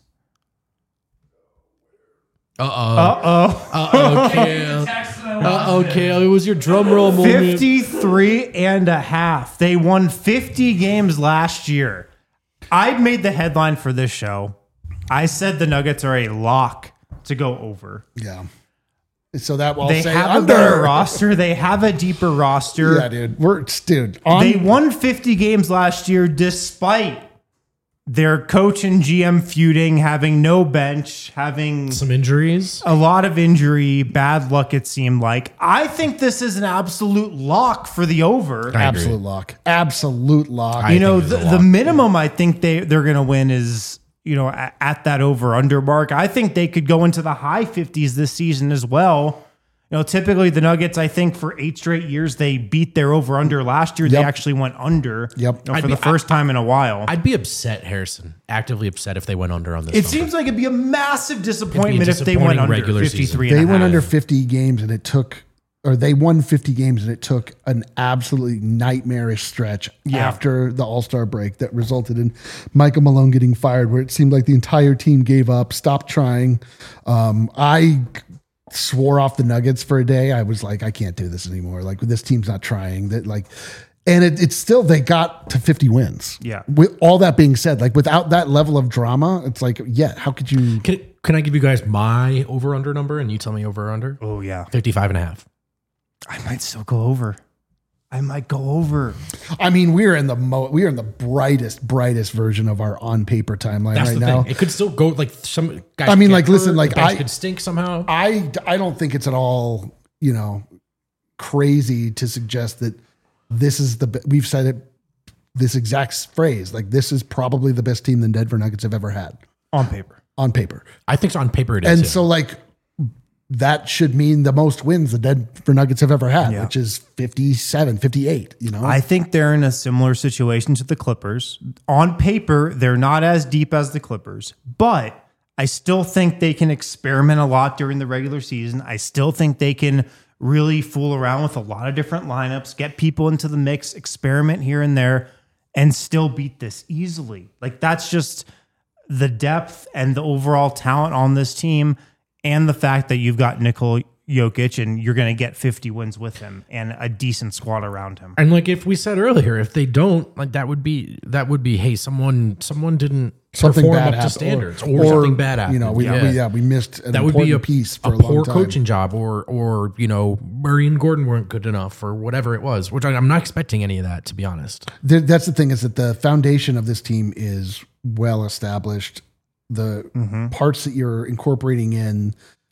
Kale. It was your drum roll moment. 53 and a half. They won 50 games last year. I made the headline for this show. I said the Nuggets are a lock to go over. Yeah. So that will They say have under. a better roster. They have a deeper roster. Yeah, dude. They won 50 games last year despite their coach and GM feuding, having no bench, having Some injuries. a lot of injury, bad luck, it seemed like. I think this is an absolute lock for the over. I agree. Absolute lock. I You know, think it's a the lock. minimum I think they're going to win is, you know, at that over-under mark. I think they could go into the high 50s this season as well. You know, typically the Nuggets, I think for 8 straight years, they beat their over-under. Last year, they actually went under Yep. you know, for the first time in a while. I'd be upset, Harrison, actively upset if they went under on this. It number. seems like it'd be a massive disappointment if they disappointing went under regular 53 They and a went half. under 50 games and they won 50 games and it took an absolutely nightmarish stretch after the All-Star break that resulted in Michael Malone getting fired, where it seemed like the entire team gave up, stopped trying. I swore off the Nuggets for a day. I was like, I can't do this anymore. Like, this team's not trying. And it's still, they got to 50 wins. Yeah. With all that being said, like, without that level of drama, it's like, yeah, how could you? Can I give you guys my over-under number and you tell me over-under? Oh, yeah. 55 and a half. I might still go over. I might go over. I mean, we are in the brightest version of our on paper timeline That's right the now. thing. It could still go like some guys. I mean, get like, listen, hurt, like, the bench I could stink somehow. I don't think it's at all, you know, crazy to suggest that this is we've said it, this exact phrase, like, this is probably the best team the Denver Nuggets have ever had On paper. on paper. I think on paper it is. And yeah. so, like, that should mean the most wins the Denver Nuggets have ever had, Yeah. which is 57, 58, you know? I think they're in a similar situation to the Clippers. On paper, they're not as deep as the Clippers, but I still think they can experiment a lot during the regular season. I still think they can really fool around with a lot of different lineups, get people into the mix, experiment here and there, and still beat this easily. Like, that's just the depth and the overall talent on this team, and the fact that you've got Nikola Jokic and you're going to get 50 wins with him and a decent squad around him. And like if we said earlier, if they don't, like that would be hey, someone didn't something perform bad up to happened, standards or something bad happened. You know, we missed an that would be a piece for a poor long time. coaching job, or you know, Murray and Gordon weren't good enough, or whatever it was. Which I'm not expecting any of that, to be honest. That's the thing, is that the foundation of this team is well established. The parts that you're incorporating in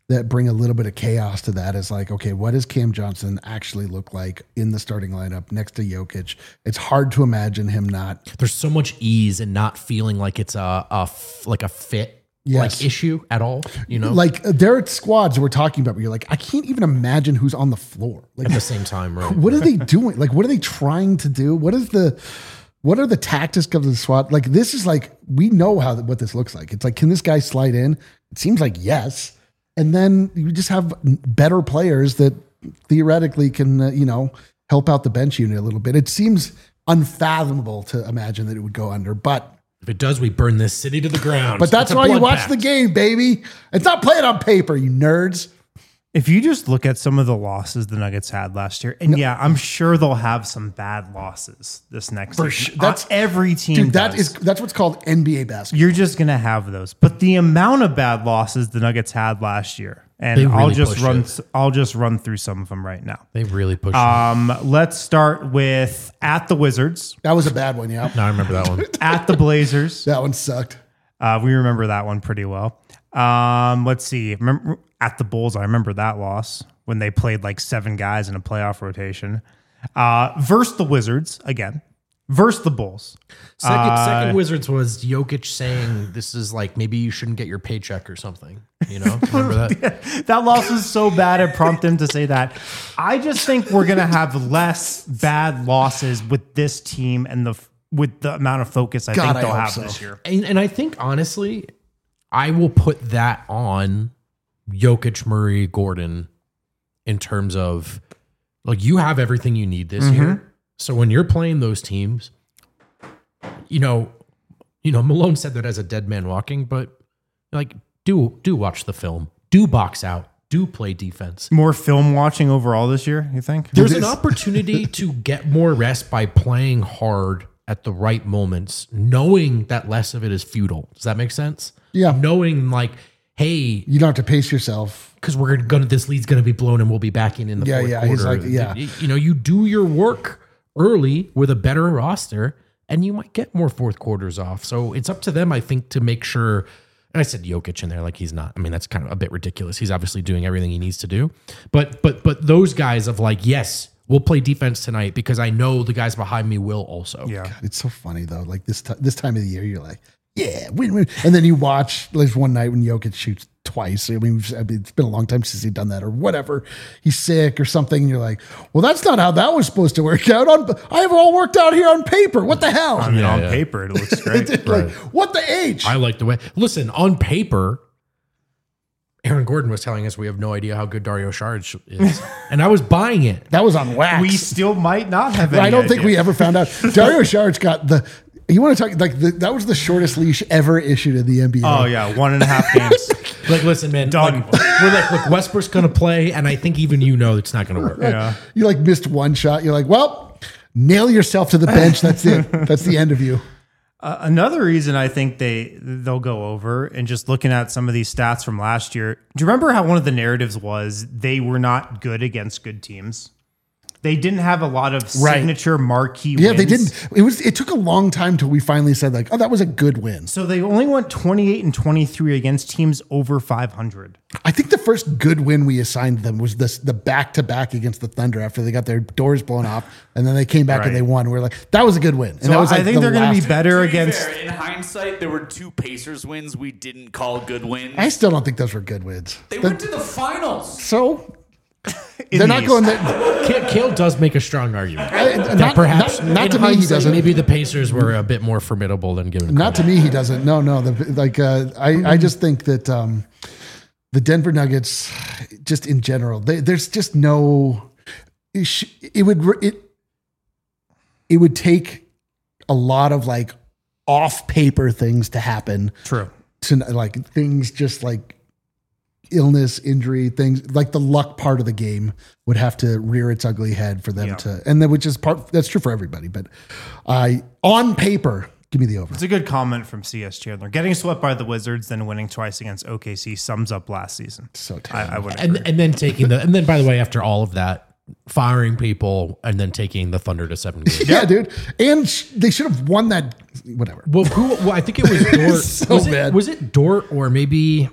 that bring a little bit of chaos to that is like, okay, what does Cam Johnson actually look like in the starting lineup next to Jokic? It's hard to imagine him not. There's so much ease and not feeling like it's a fit like issue at all. You know, like there are squads that we're talking about where you're like, I can't even imagine who's on the floor like at the same time. Right? What are they doing? Like, what are they trying to do? What are the tactics of the squad? Like, this is like, we know what this looks like. It's like, can this guy slide in? It seems like yes. And then you just have better players that theoretically can, help out the bench unit a little bit. It seems unfathomable to imagine that it would go under, but if it does, we burn this city to the ground. But that's why you watch the game, baby. It's not playing on paper, you nerds. If you just look at some of the losses the Nuggets had last year, and I'm sure they'll have some bad losses this next season. Sure. That's every team. Dude, that's what's called NBA basketball. You're just gonna have those. But the amount of bad losses the Nuggets had last year, and really I'll just run through some of them right now. They really pushed. Let's start with at the Wizards. That was a bad one, yeah. No, I remember that one. At the Blazers. That one sucked. We remember that one pretty well. Let's see. Remember at the Bulls, I remember that loss when they played like 7 guys in a playoff rotation. Versus the Wizards again. Versus the Bulls. Second Wizards was Jokic saying this is like maybe you shouldn't get your paycheck or something. You know, remember that? That loss was so bad it prompted him to say that. I just think we're gonna have less bad losses with this team and with the amount of focus I think they'll have this year. And I think honestly, I will put that on Jokic, Murray, Gordon in terms of like you have everything you need this year. So when you're playing those teams, Malone said that as a dead man walking, but like do watch the film, do box out, do play defense. More film watching overall this year, you think? There's an opportunity to get more rest by playing hard at the right moments, knowing that less of it is futile. Does that make sense? Yeah. Knowing like, hey, you don't have to pace yourself because this lead's gonna be blown and we'll be back in the fourth quarter. He's like, you do your work early with a better roster and you might get more fourth quarters off. So it's up to them, I think, to make sure. And I said Jokic in there, like he's not. I mean, that's kind of a bit ridiculous. He's obviously doing everything he needs to do. But those guys of like, yes, we'll play defense tonight because I know the guys behind me will also. Yeah, God, it's so funny though. Like this time of the year, you're like, yeah, win. And then you watch. There's one night when Jokic shoots twice. I mean, it's been a long time since he's done that or whatever. He's sick or something. And you're like, well, that's not how that was supposed to work out. I have it all worked out here on paper. What the hell? I mean, on paper, it looks great. Like, what the H? I like the way. Listen, on paper, Aaron Gordon was telling us we have no idea how good Dario Saric is. And I was buying it. That was on wax. We still might not have any I don't think idea. we ever found out. Dario Saric got you want to talk like that was the shortest leash ever issued in the NBA. Oh yeah, 1.5 games. Like, listen, man, done. We're like, look, Westbrook's going to play, and I think even it's not going to work. Yeah. You like missed one shot. You're like, well, nail yourself to the bench. That's it. That's the end of you. Another reason I think they'll go over, and just looking at some of these stats from last year, do you remember how one of the narratives was they were not good against good teams? They didn't have a lot of signature marquee wins. Yeah, they didn't. It took a long time till we finally said like, oh, that was a good win. So they only went 28 and 23 against teams over 500. I think the first good win we assigned them was the back-to-back against the Thunder after they got their doors blown off, and then they came back and they won. We're like, that was a good win. And so that was like I think they're going to be better against. Fair, in hindsight, there were 2 Pacers wins we didn't call good wins. I still don't think those were good wins. They went to the finals. So they're not going there. Kale does make a strong argument. Perhaps not to me, he doesn't. Maybe the Pacers were a bit more formidable than given. Not to me, he doesn't. No. I just think that the Denver Nuggets, just in general, there's just no. It would take a lot of like off paper things to happen. True. To like things just like illness, injury, things like the luck part of the game would have to rear its ugly head for them to, and then which is that's true for everybody. But on paper, give me the over. It's a good comment from CS Chandler. Getting swept by the Wizards, then winning twice against OKC sums up last season. So terrible. I would agree. And then and then by the way, after all of that, firing people and then taking the Thunder to 7 games. Yeah, dude. And they should have won that. Whatever. Well, I think it was Dort. So bad. Was it Dort or maybe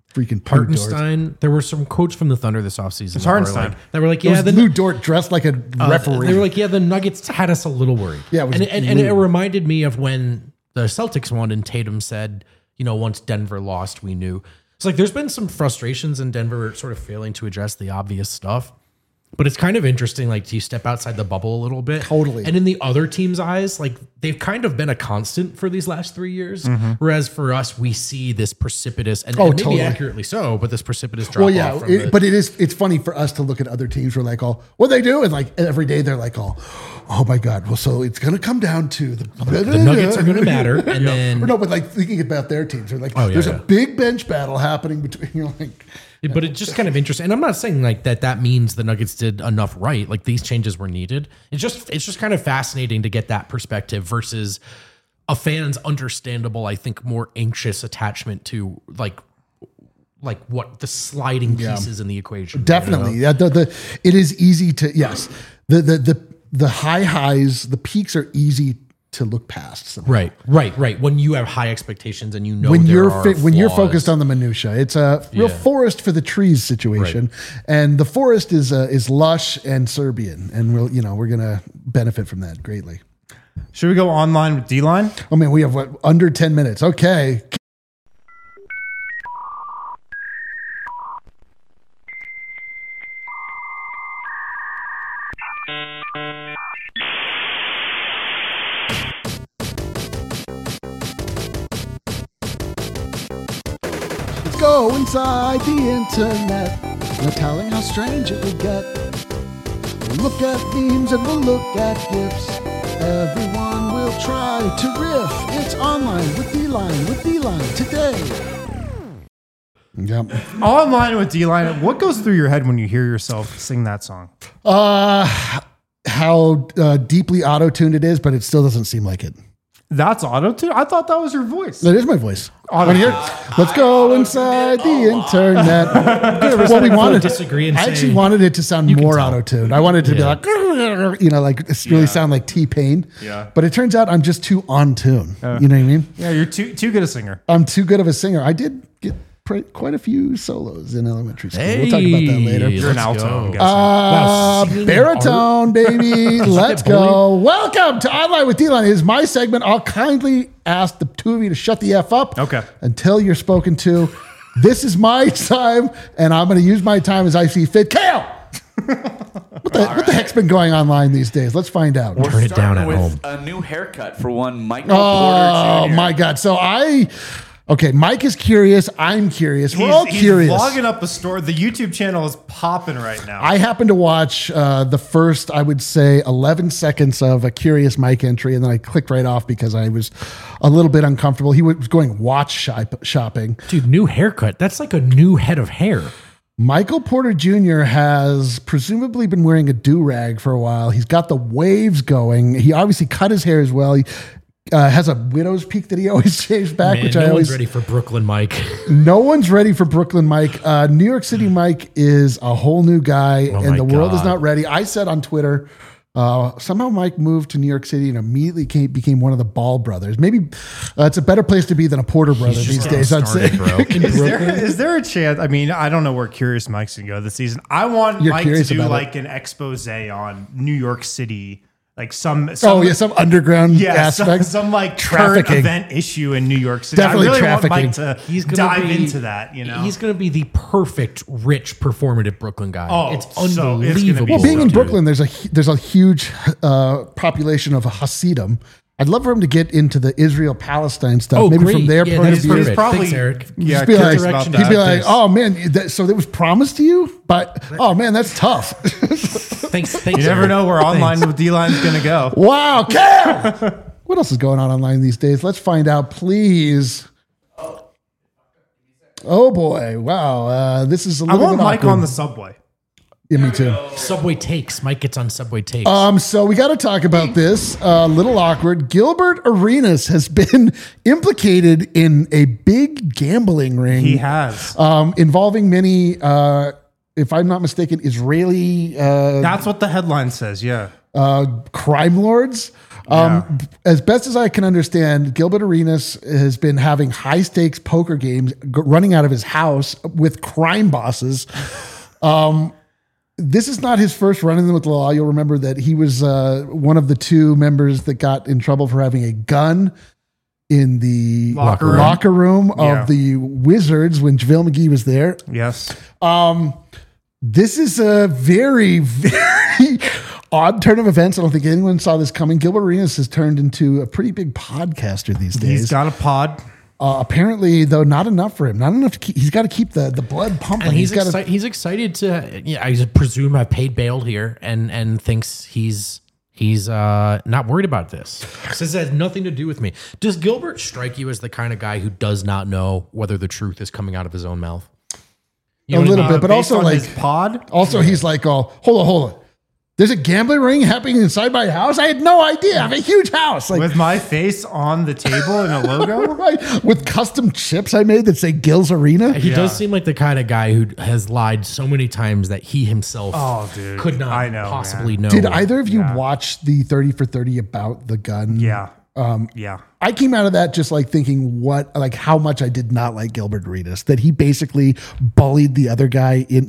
Freaking Hartenstein. There were some quotes from the Thunder this offseason. It's Hartenstein. That were like, Yeah, yeah, Lou Dort dressed like a referee. they were like, yeah, the Nuggets had us a little worried. Yeah, and it reminded me of when the Celtics won and Tatum said, once Denver lost, we knew. It's like there's been some frustrations in Denver sort of failing to address the obvious stuff. But it's kind of interesting, like, you step outside the bubble a little bit. Totally. And in the other team's eyes, like, they've kind of been a constant for these last 3 years. Whereas for us, we see this precipitous, and maybe totally. accurately so, but this precipitous drop Well, yeah, off. but it's funny for us to look at other teams. We're like, what they do? And like every day they're like, oh my God. Well, so it's going to come down to the Nuggets are going to matter. And then, or no, but like thinking about their teams, they're like, there's a big bench battle happening between, but it's just kind of interesting. And I'm not saying like that means the Nuggets did enough right. Like these changes were needed. It's just kind of fascinating to get that perspective versus a fan's understandable, I think, more anxious attachment to like what the sliding pieces in the equation. Definitely. Yeah. It is easy to, yes. The highs, the peaks are easy to look past. Somehow. Right. When you have high expectations and when you're focused on the minutia, it's a real forest for the trees situation, and the forest is lush and Serbian, and we're gonna benefit from that greatly. Should we go online with D-Line? I mean, we have under 10 minutes. Okay. Go inside the internet, no telling how strange it will get. We'll look at memes and we'll look at GIFs. Everyone will try to riff. It's online with D-Line today. Yep. Online with D-Line. What goes through your head when you hear yourself sing that song? How deeply auto-tuned it is, but it still doesn't seem like it. That's auto-tune? I thought that was your voice. That is my voice. Let's go inside the internet. Well, we wanted disagree. I actually wanted it to sound more auto-tuned. I wanted it to be like, really sound like T-Pain. Yeah. But it turns out I'm just too on tune. You know what I mean? Yeah, you're too good a singer. I'm too good of a singer. I did get quite a few solos in elementary school. We'll talk about that later. You're an alto, I'm guessing. Baritone, baby. Let's go. Welcome to Online with D-Line. It is my segment. I'll kindly ask the two of you to shut the F up until you're spoken to. This is my time, and I'm going to use my time as I see fit. Kale! What the heck's been going online these days? Let's find out. Turn it down at home. A new haircut for one Michael Porter Jr. Oh, my God. So Okay, Mike is curious. I'm curious. We're all curious. He's vlogging up a store. The YouTube channel is popping right now. I happened to watch the first, I would say, 11 seconds of a Curious Mike entry, and then I clicked right off because I was a little bit uncomfortable. He was going watch shopping. Dude, new haircut. That's like a new head of hair. Michael Porter Jr. has presumably been wearing a do-rag for a while. He's got the waves going. He obviously cut his hair as well. He has a widow's peak that he always shaves back, Man, which no I always. One's ready for Brooklyn Mike. No one's ready for Brooklyn Mike. New York City Mike is a whole new guy, and the world is not ready. I said on Twitter, somehow Mike moved to New York City and immediately became one of the Ball brothers. Maybe it's a better place to be than a Porter brother these days, I'd say. Is there a chance? I mean, I don't know where Curious Mike's going to go this season. I want Mike to do like an expose on New York City. Like some underground aspect, some like current event issue in New York City. Definitely I really trafficking. want Mike to dive into that. He's going to be the perfect rich performative Brooklyn guy. Oh, it's so unbelievable. Well, being in Brooklyn, there's a huge population of Hasidim. I'd love for him to get into the Israel-Palestine stuff. Oh, maybe great. from their point of view. He's probably, thanks, Eric. Yeah, he'd be like, oh man, so that was promised to you, but oh man, that's tough. Thanks. You never know where Online with D-Line's going to go. Wow, Cal! What else is going on online these days? Let's find out, please. Oh boy, wow, this is a little bit I want Mike awkward. on the subway. Yeah, me too. Subway Takes. Mike gets on Subway Takes. So we got to talk about this. A little awkward. Gilbert Arenas has been implicated in a big gambling ring. He has. Involving many, if I'm not mistaken, Israeli. That's what the headline says. Yeah. Crime lords. As best as I can understand, Gilbert Arenas has been having high stakes poker games running out of his house with crime bosses. This is not his first run-in with the law. You'll remember that he was one of the two members that got in trouble for having a gun in the locker room of the Wizards when JaVale McGee was there. Yes. This is a very, very odd turn of events. I don't think anyone saw this coming. Gilbert Arenas has turned into a pretty big podcaster these days. He's got a pod. Apparently, though, not enough for him. Not enough to keep. He's got to keep the blood pumping. And he's excited to. I presume have paid bail here, and thinks he's not worried about this. Says it has nothing to do with me. Does Gilbert strike you as the kind of guy who does not know whether the truth is coming out of his own mouth? A little bit, but also like his pod. Also, he's like, oh, hold on. There's a gambling ring happening inside my house. I had no idea. I have a huge house. With my face on the table and a logo? Right. With custom chips I made that say Gil's Arena. He does seem like the kind of guy who has lied so many times that he himself could not possibly know. Did either of you watch the 30 for 30 about the gun? Yeah. I came out of that just like thinking how much I did not like Gilbert Arenas, that he basically bullied the other guy in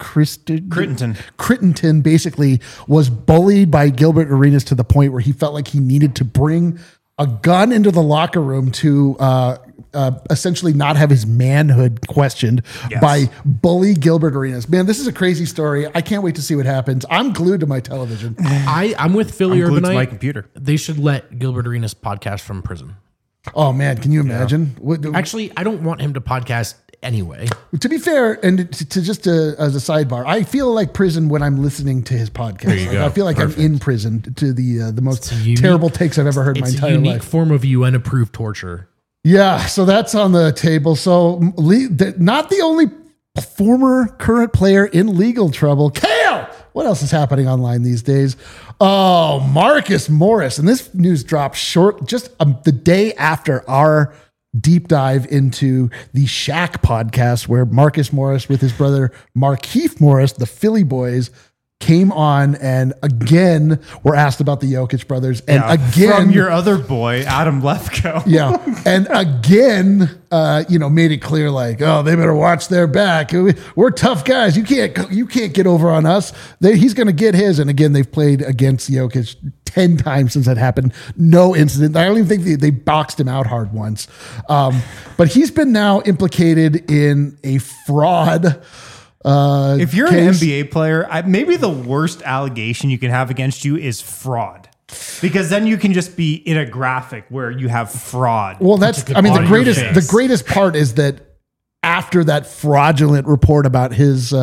Crittenton basically was bullied by Gilbert Arenas to the point where he felt like he needed to bring a gun into the locker room to essentially not have his manhood questioned by bully Gilbert Arenas. Man, this is a crazy story. I can't wait to see what happens. I'm glued to my television. I'm with Philly Urbanite. Glued to my computer. They should let Gilbert Arenas podcast from prison. Oh man, can you imagine? Actually, I don't want him to podcast anyway. To be fair, and to just as a sidebar, I feel like prison when I'm listening to his podcast. I feel like I'm in prison to the most terrible takes I've ever heard in my entire life. It's a unique form of UN-approved torture. Yeah, so that's on the table. So not the only former current player in legal trouble. Kale! What else is happening online these days? Oh, Marcus Morris. And this news dropped just the day after our deep dive into the Shaq podcast, where Marcus Morris with his brother Markieff Morris, the Philly boys, came on and again were asked about the Jokic brothers. And again, from your other boy, Adam Lefkoe. Yeah. And again, made it clear like, oh, they better watch their back. We're tough guys. You can't get over on us. He's going to get his. And again, they've played against Jokic 10 times since that happened. No incident. I don't even think they boxed him out hard once. But he's been now implicated in a fraud. If you're an NBA player, maybe the worst allegation you can have against you is fraud, because then you can just be in a graphic where you have fraud. Well, the greatest part is that after that fraudulent report about his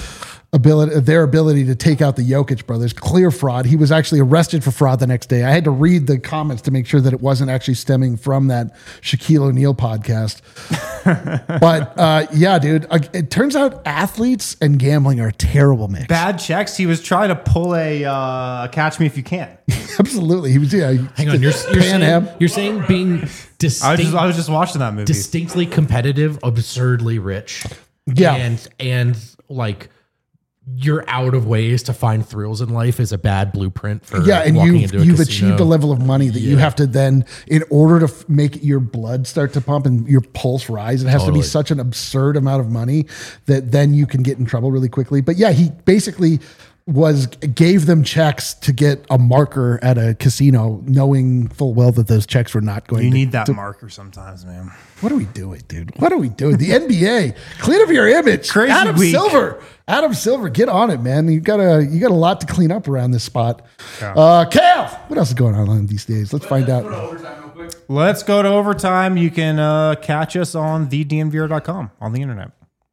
their ability to take out the Jokic brothers, clear fraud. He was actually arrested for fraud the next day. I had to read the comments to make sure that it wasn't actually stemming from that Shaquille O'Neal podcast. But dude, it turns out athletes and gambling are a terrible mix. Bad checks. He was trying to pull a Catch Me If You Can. Absolutely. He was. Hang on. You're saying being distinct. I was just watching that movie. Distinctly competitive, absurdly rich. Yeah. And like, you're out of ways to find thrills in life is a bad blueprint for and walking into a you've casino. achieved a level of money that you have to then, in order to make your blood start to pump and your pulse rise, it has to be such an absurd amount of money that then you can get in trouble really quickly. But yeah, he basically gave them checks to get a marker at a casino, knowing full well that those checks were not going. You need that marker sometimes, man. What are we doing, dude? What are we doing? The NBA, clean up your image. Crazy Adam Silver, get on it, man. You got a lot to clean up around this spot. Cal, what else is going on these days? Let's find out. Let's go to overtime. You can catch us on thednvr.com on the internet.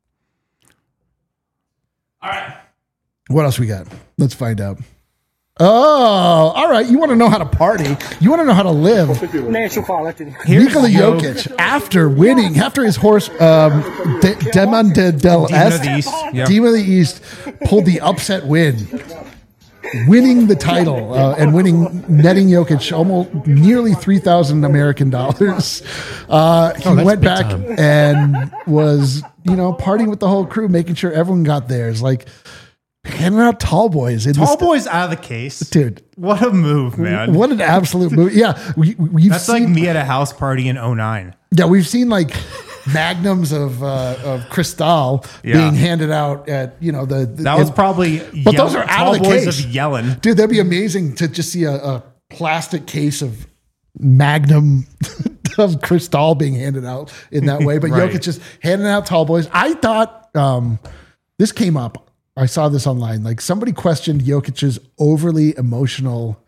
All right. What else we got? Let's find out. Oh, all right. You want to know how to party. You want to know how to live. Nikola Jokic, after his horse, Demon of the East, pulled the upset win, winning the title and netting Jokic almost nearly $3,000 American dollars. He went back and was, partying with the whole crew, making sure everyone got theirs. Like, handing out tall boys. Tall boys out of the case. Dude. What a move, man. What an absolute move. Yeah. That's seen, like me at a house party in 2009. Yeah, we've seen like magnums of Cristal being handed out at, that was probably but those are out of the boys case. Of yelling. Dude, that'd be amazing to just see a plastic case of Magnum of Cristal being handed out in that way. But Right. Jokic just handing out tall boys. I thought this came up. I saw this online. Like somebody questioned Jokic's overly emotional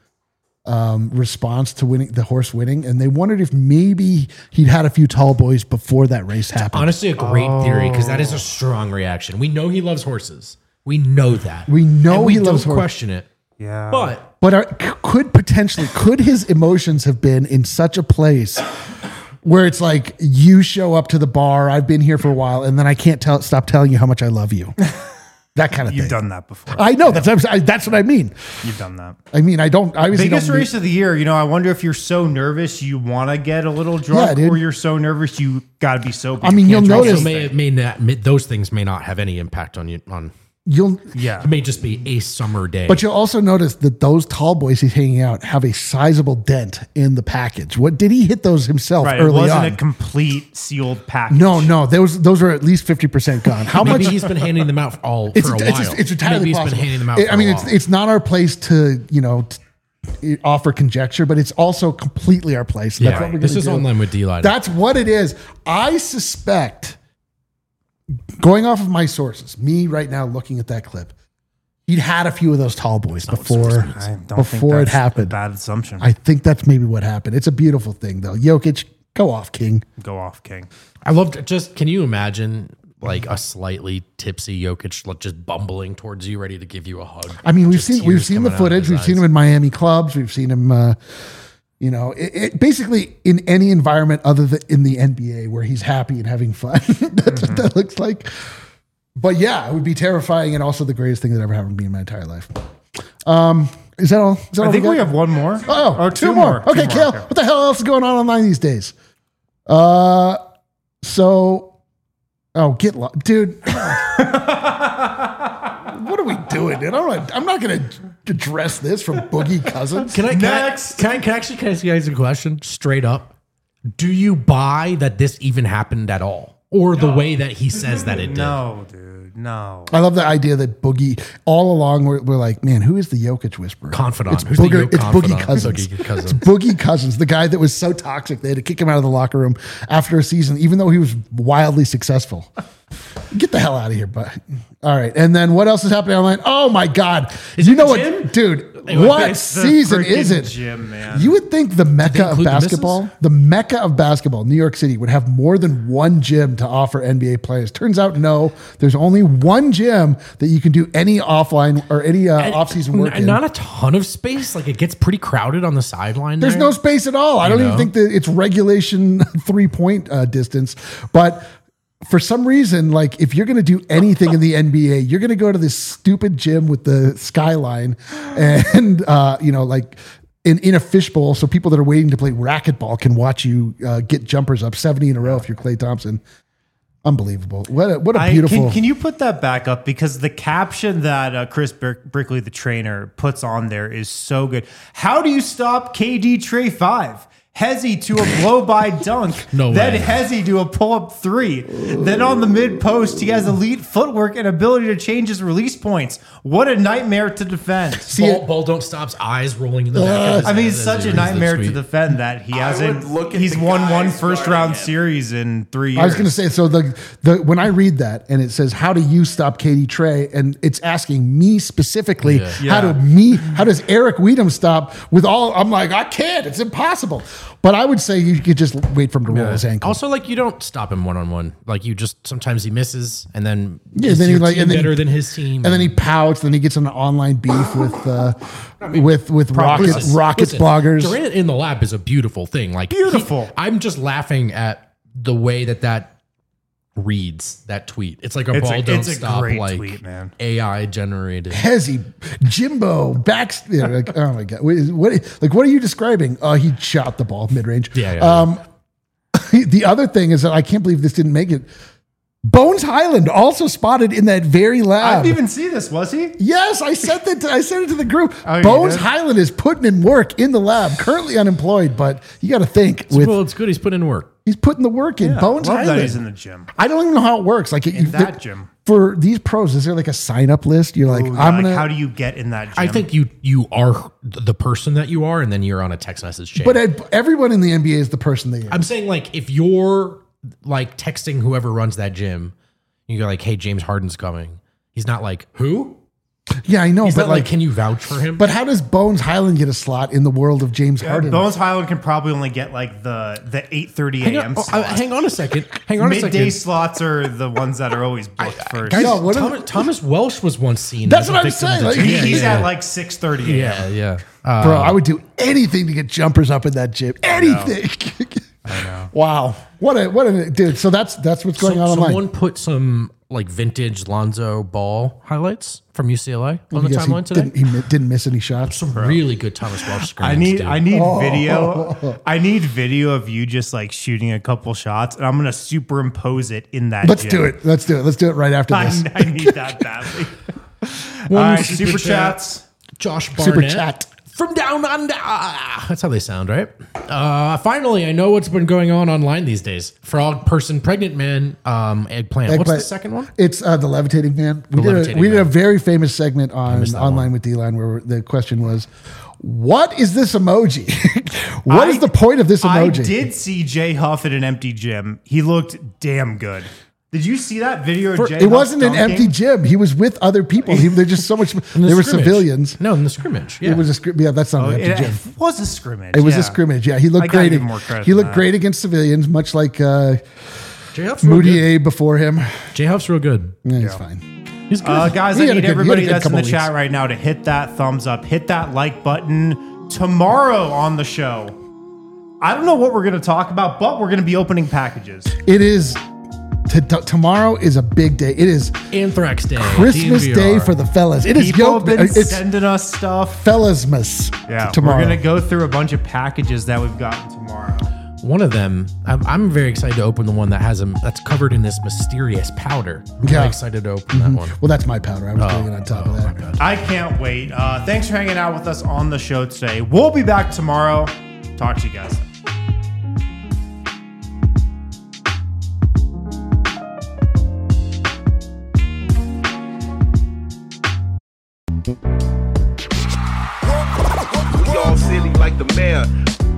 response to winning the horse winning, and they wondered if maybe he'd had a few tall boys before that race happened. Honestly, a great theory because that is a strong reaction. We know he loves horses. We know that. We know and he loves don't horses. question it. Yeah. But could his emotions have been in such a place where it's like you show up to the bar, I've been here for a while, and then I can't stop telling you how much I love you. That kind of thing. You've done that before. I know. That's what I mean. You've done that. I mean, I don't. I biggest race of the year. I wonder if you're so nervous you want to get a little drunk, or you're so nervous you got to be sober. I mean, you'll notice those things may not have any impact on you. It may just be a summer day. But you'll also notice that those tall boys he's hanging out have a sizable dent in the package. What did he hit those himself early on? It wasn't a complete sealed package. No, those are at least 50% gone. How Maybe much? he's been handing them out for a while. It's entirely Maybe he's possible. been handing them out. It's not our place to offer conjecture, but it's also completely our place. Yeah, that's what we're this gonna is do. online with D-Line. That's what it is. I suspect, going off of my sources, me right now looking at that clip, he'd had a few of those tall boys before it happened. A bad assumption. I think that's maybe what happened. It's a beautiful thing, though. Jokic, go off, King. Go off, King. I loved just. Can you imagine like a slightly tipsy Jokic just bumbling towards you, ready to give you a hug? I mean, we've Just seen tears the coming out of footage. his We've seen eyes. him in Miami clubs. We've seen him. Basically in any environment other than in the NBA where he's happy and having fun. That's what that looks like. But yeah, it would be terrifying and also the greatest thing that ever happened to me in my entire life. Is that all? I think we have one more. Oh, or two more. Okay, Kale, what the hell else is going on online these days? Get lost. Dude. What are we doing, dude? I'm not going to address this from Boogie Cousins. Can I ask you guys a question straight up? Do you buy that this even happened at all? Or the way that he says that it did? No, dude, no. I love the idea that Boogie, all along, we're like, man, who is the Jokic whisperer? Confidant. It's Who's the Boogie confidant? Cousins. Boogie Cousins. It's Boogie Cousins, the guy that was so toxic they had to kick him out of the locker room after a season, even though he was wildly successful. Get the hell out of here, but all right. And then what else is happening online? Oh my God. You know what, dude? What season is it? Gym, man. You would think the Mecca of include the basketball, the Mecca of basketball, New York City, would have more than one gym to offer NBA players. Turns out, no. There's only one gym that you can do any offline or any off-season work in. Not a ton of space. Like it gets pretty crowded on the sideline. There's no space at all. I don't even think that it's regulation 3-point distance, but for some reason, like if you're going to do anything in the NBA, you're going to go to this stupid gym with the skyline and, like in a fishbowl. So people that are waiting to play racquetball can watch you get jumpers up 70 in a row if you're Klay Thompson. Unbelievable. What a beautiful. Can you put that back up? Because the caption that Chris Brickley, the trainer, puts on there is so good. How do you stop KD Trey 5? Hezzy to a blow-by dunk. No then way. Hezzy to a pull-up 3. Then on the mid-post, he has elite footwork and ability to change his release points. What a nightmare to defend. Ball don't stop's eyes rolling in the back of his I mean, head it's as such he a reads the nightmare to tweet. defend that he hasn't. He's the won one guys first-round guarding him. series in 3 years. I was going to say, so the when I read that and it says, how do you stop KD Trey? And it's asking me specifically, how does Eric Weedham stop with all, I'm like, I can't, it's impossible. But I would say you could just wait for him to roll his ankle. Also, like you don't stop him one-on-one. Like you just sometimes he misses, and then then he your like team and then better than his team, and then he pouts. Then he gets in an online beef with Rockets Listen, bloggers. Durant in the lab is a beautiful thing. Like Beautiful. I'm just laughing at the way that reads that tweet. It's like a ball don't it's a stop great like tweet, man. AI generated. Hezzy, Jimbo, like, oh my God, what are you describing? He shot the ball mid range. Yeah. The other thing is that I can't believe this didn't make it. Bones Highland also spotted in that very I lab. didn't even see this. Was he? Yes, I sent it to the group. Oh, you Bones did? Highland is putting in work in the lab, currently unemployed, but you got to think Well, it's good. He's putting in work. he's putting the work in. Bones Love that Highland. he's in the gym. I don't even know how it works. Like In that gym. for these pros, is there like a sign up list? You're like, Ooh, I'm like, gonna. how do you get in that gym? I think you are the person that you are, and then you're on a text message chain. But everyone in the NBA is the person they are. I'm saying, like, if you're like texting whoever runs that gym, you go like, "Hey, James Harden's coming." He's not like, "Who?" Yeah, I know, He's but not like, "Can you vouch for him?" but how does Bones Highland get a slot in the world of James Harden? Bones Highland can probably only get like the 8:30 a.m. slot. hang on a second. Hang on a Midday second. slots are the ones that are always booked first. Guys, No, what are Thomas Welsh was once seen. That's as a what I'm victim saying, to like, gym. He's at like 6:30 a.m. yeah, yeah. Bro, I would do anything to get jumpers up in that gym. Anything. I know. Wow. What a dude. So that's what's going on online. Someone put some like vintage Lonzo Ball highlights from UCLA on the Because timeline today. he didn't miss any shots. Some really good Thomas Welsh screens. I need dude. video. I need video of you just like shooting a couple shots, and I'm gonna superimpose it in that. Let's gym. do it. Let's do it. Let's do it right after this. I need that badly. All right, super chats. Josh Barnett. Super chat. From down under. That's how they sound, right? Finally, I know what's been going on online these days. Frog person, pregnant man, eggplant. What's the second one? It's the levitating man. We Levitating did a Man. very famous segment on missed that online one. with D-Line where the question was, what is this emoji? What is the point of this emoji? I did see Jay Huff at an empty gym. He looked damn good. Did you see that video of Jay It Huff wasn't an dunking? empty gym. He was with other people. They're just so much. In There the were scrimmage. civilians. No, in the scrimmage. Yeah. It was a scrimmage. Yeah, that's not an empty gym. It was a scrimmage. It was yeah. a scrimmage. Yeah, he I looked gotta great. give him more credit He than looked that. great against civilians, much like J Huff's real good. Moutier before him. J Huff's real good. Yeah, he's fine. He's good. Guys, He I had a need good- everybody he had a good that's in the couple chat weeks. right now to hit that thumbs up, hit that like button. Tomorrow on the show, I don't know what we're going to talk about, but we're going to be opening packages. It is. Tomorrow is a big day. It is Anthrax Day. Christmas DNVR. Day for the fellas. It is People have been It's sending us stuff. fellasmas. Yeah, tomorrow. we're going to go through a bunch of packages that we've gotten tomorrow. One of them, I'm very excited to open the one that has that's covered in this mysterious powder. I'm Yeah. very excited to open that one. Well, that's my powder. I was doing it on top of that. I can't wait. Thanks for hanging out with us on the show today. We'll be back tomorrow. Talk to you guys. We all silly like the mayor.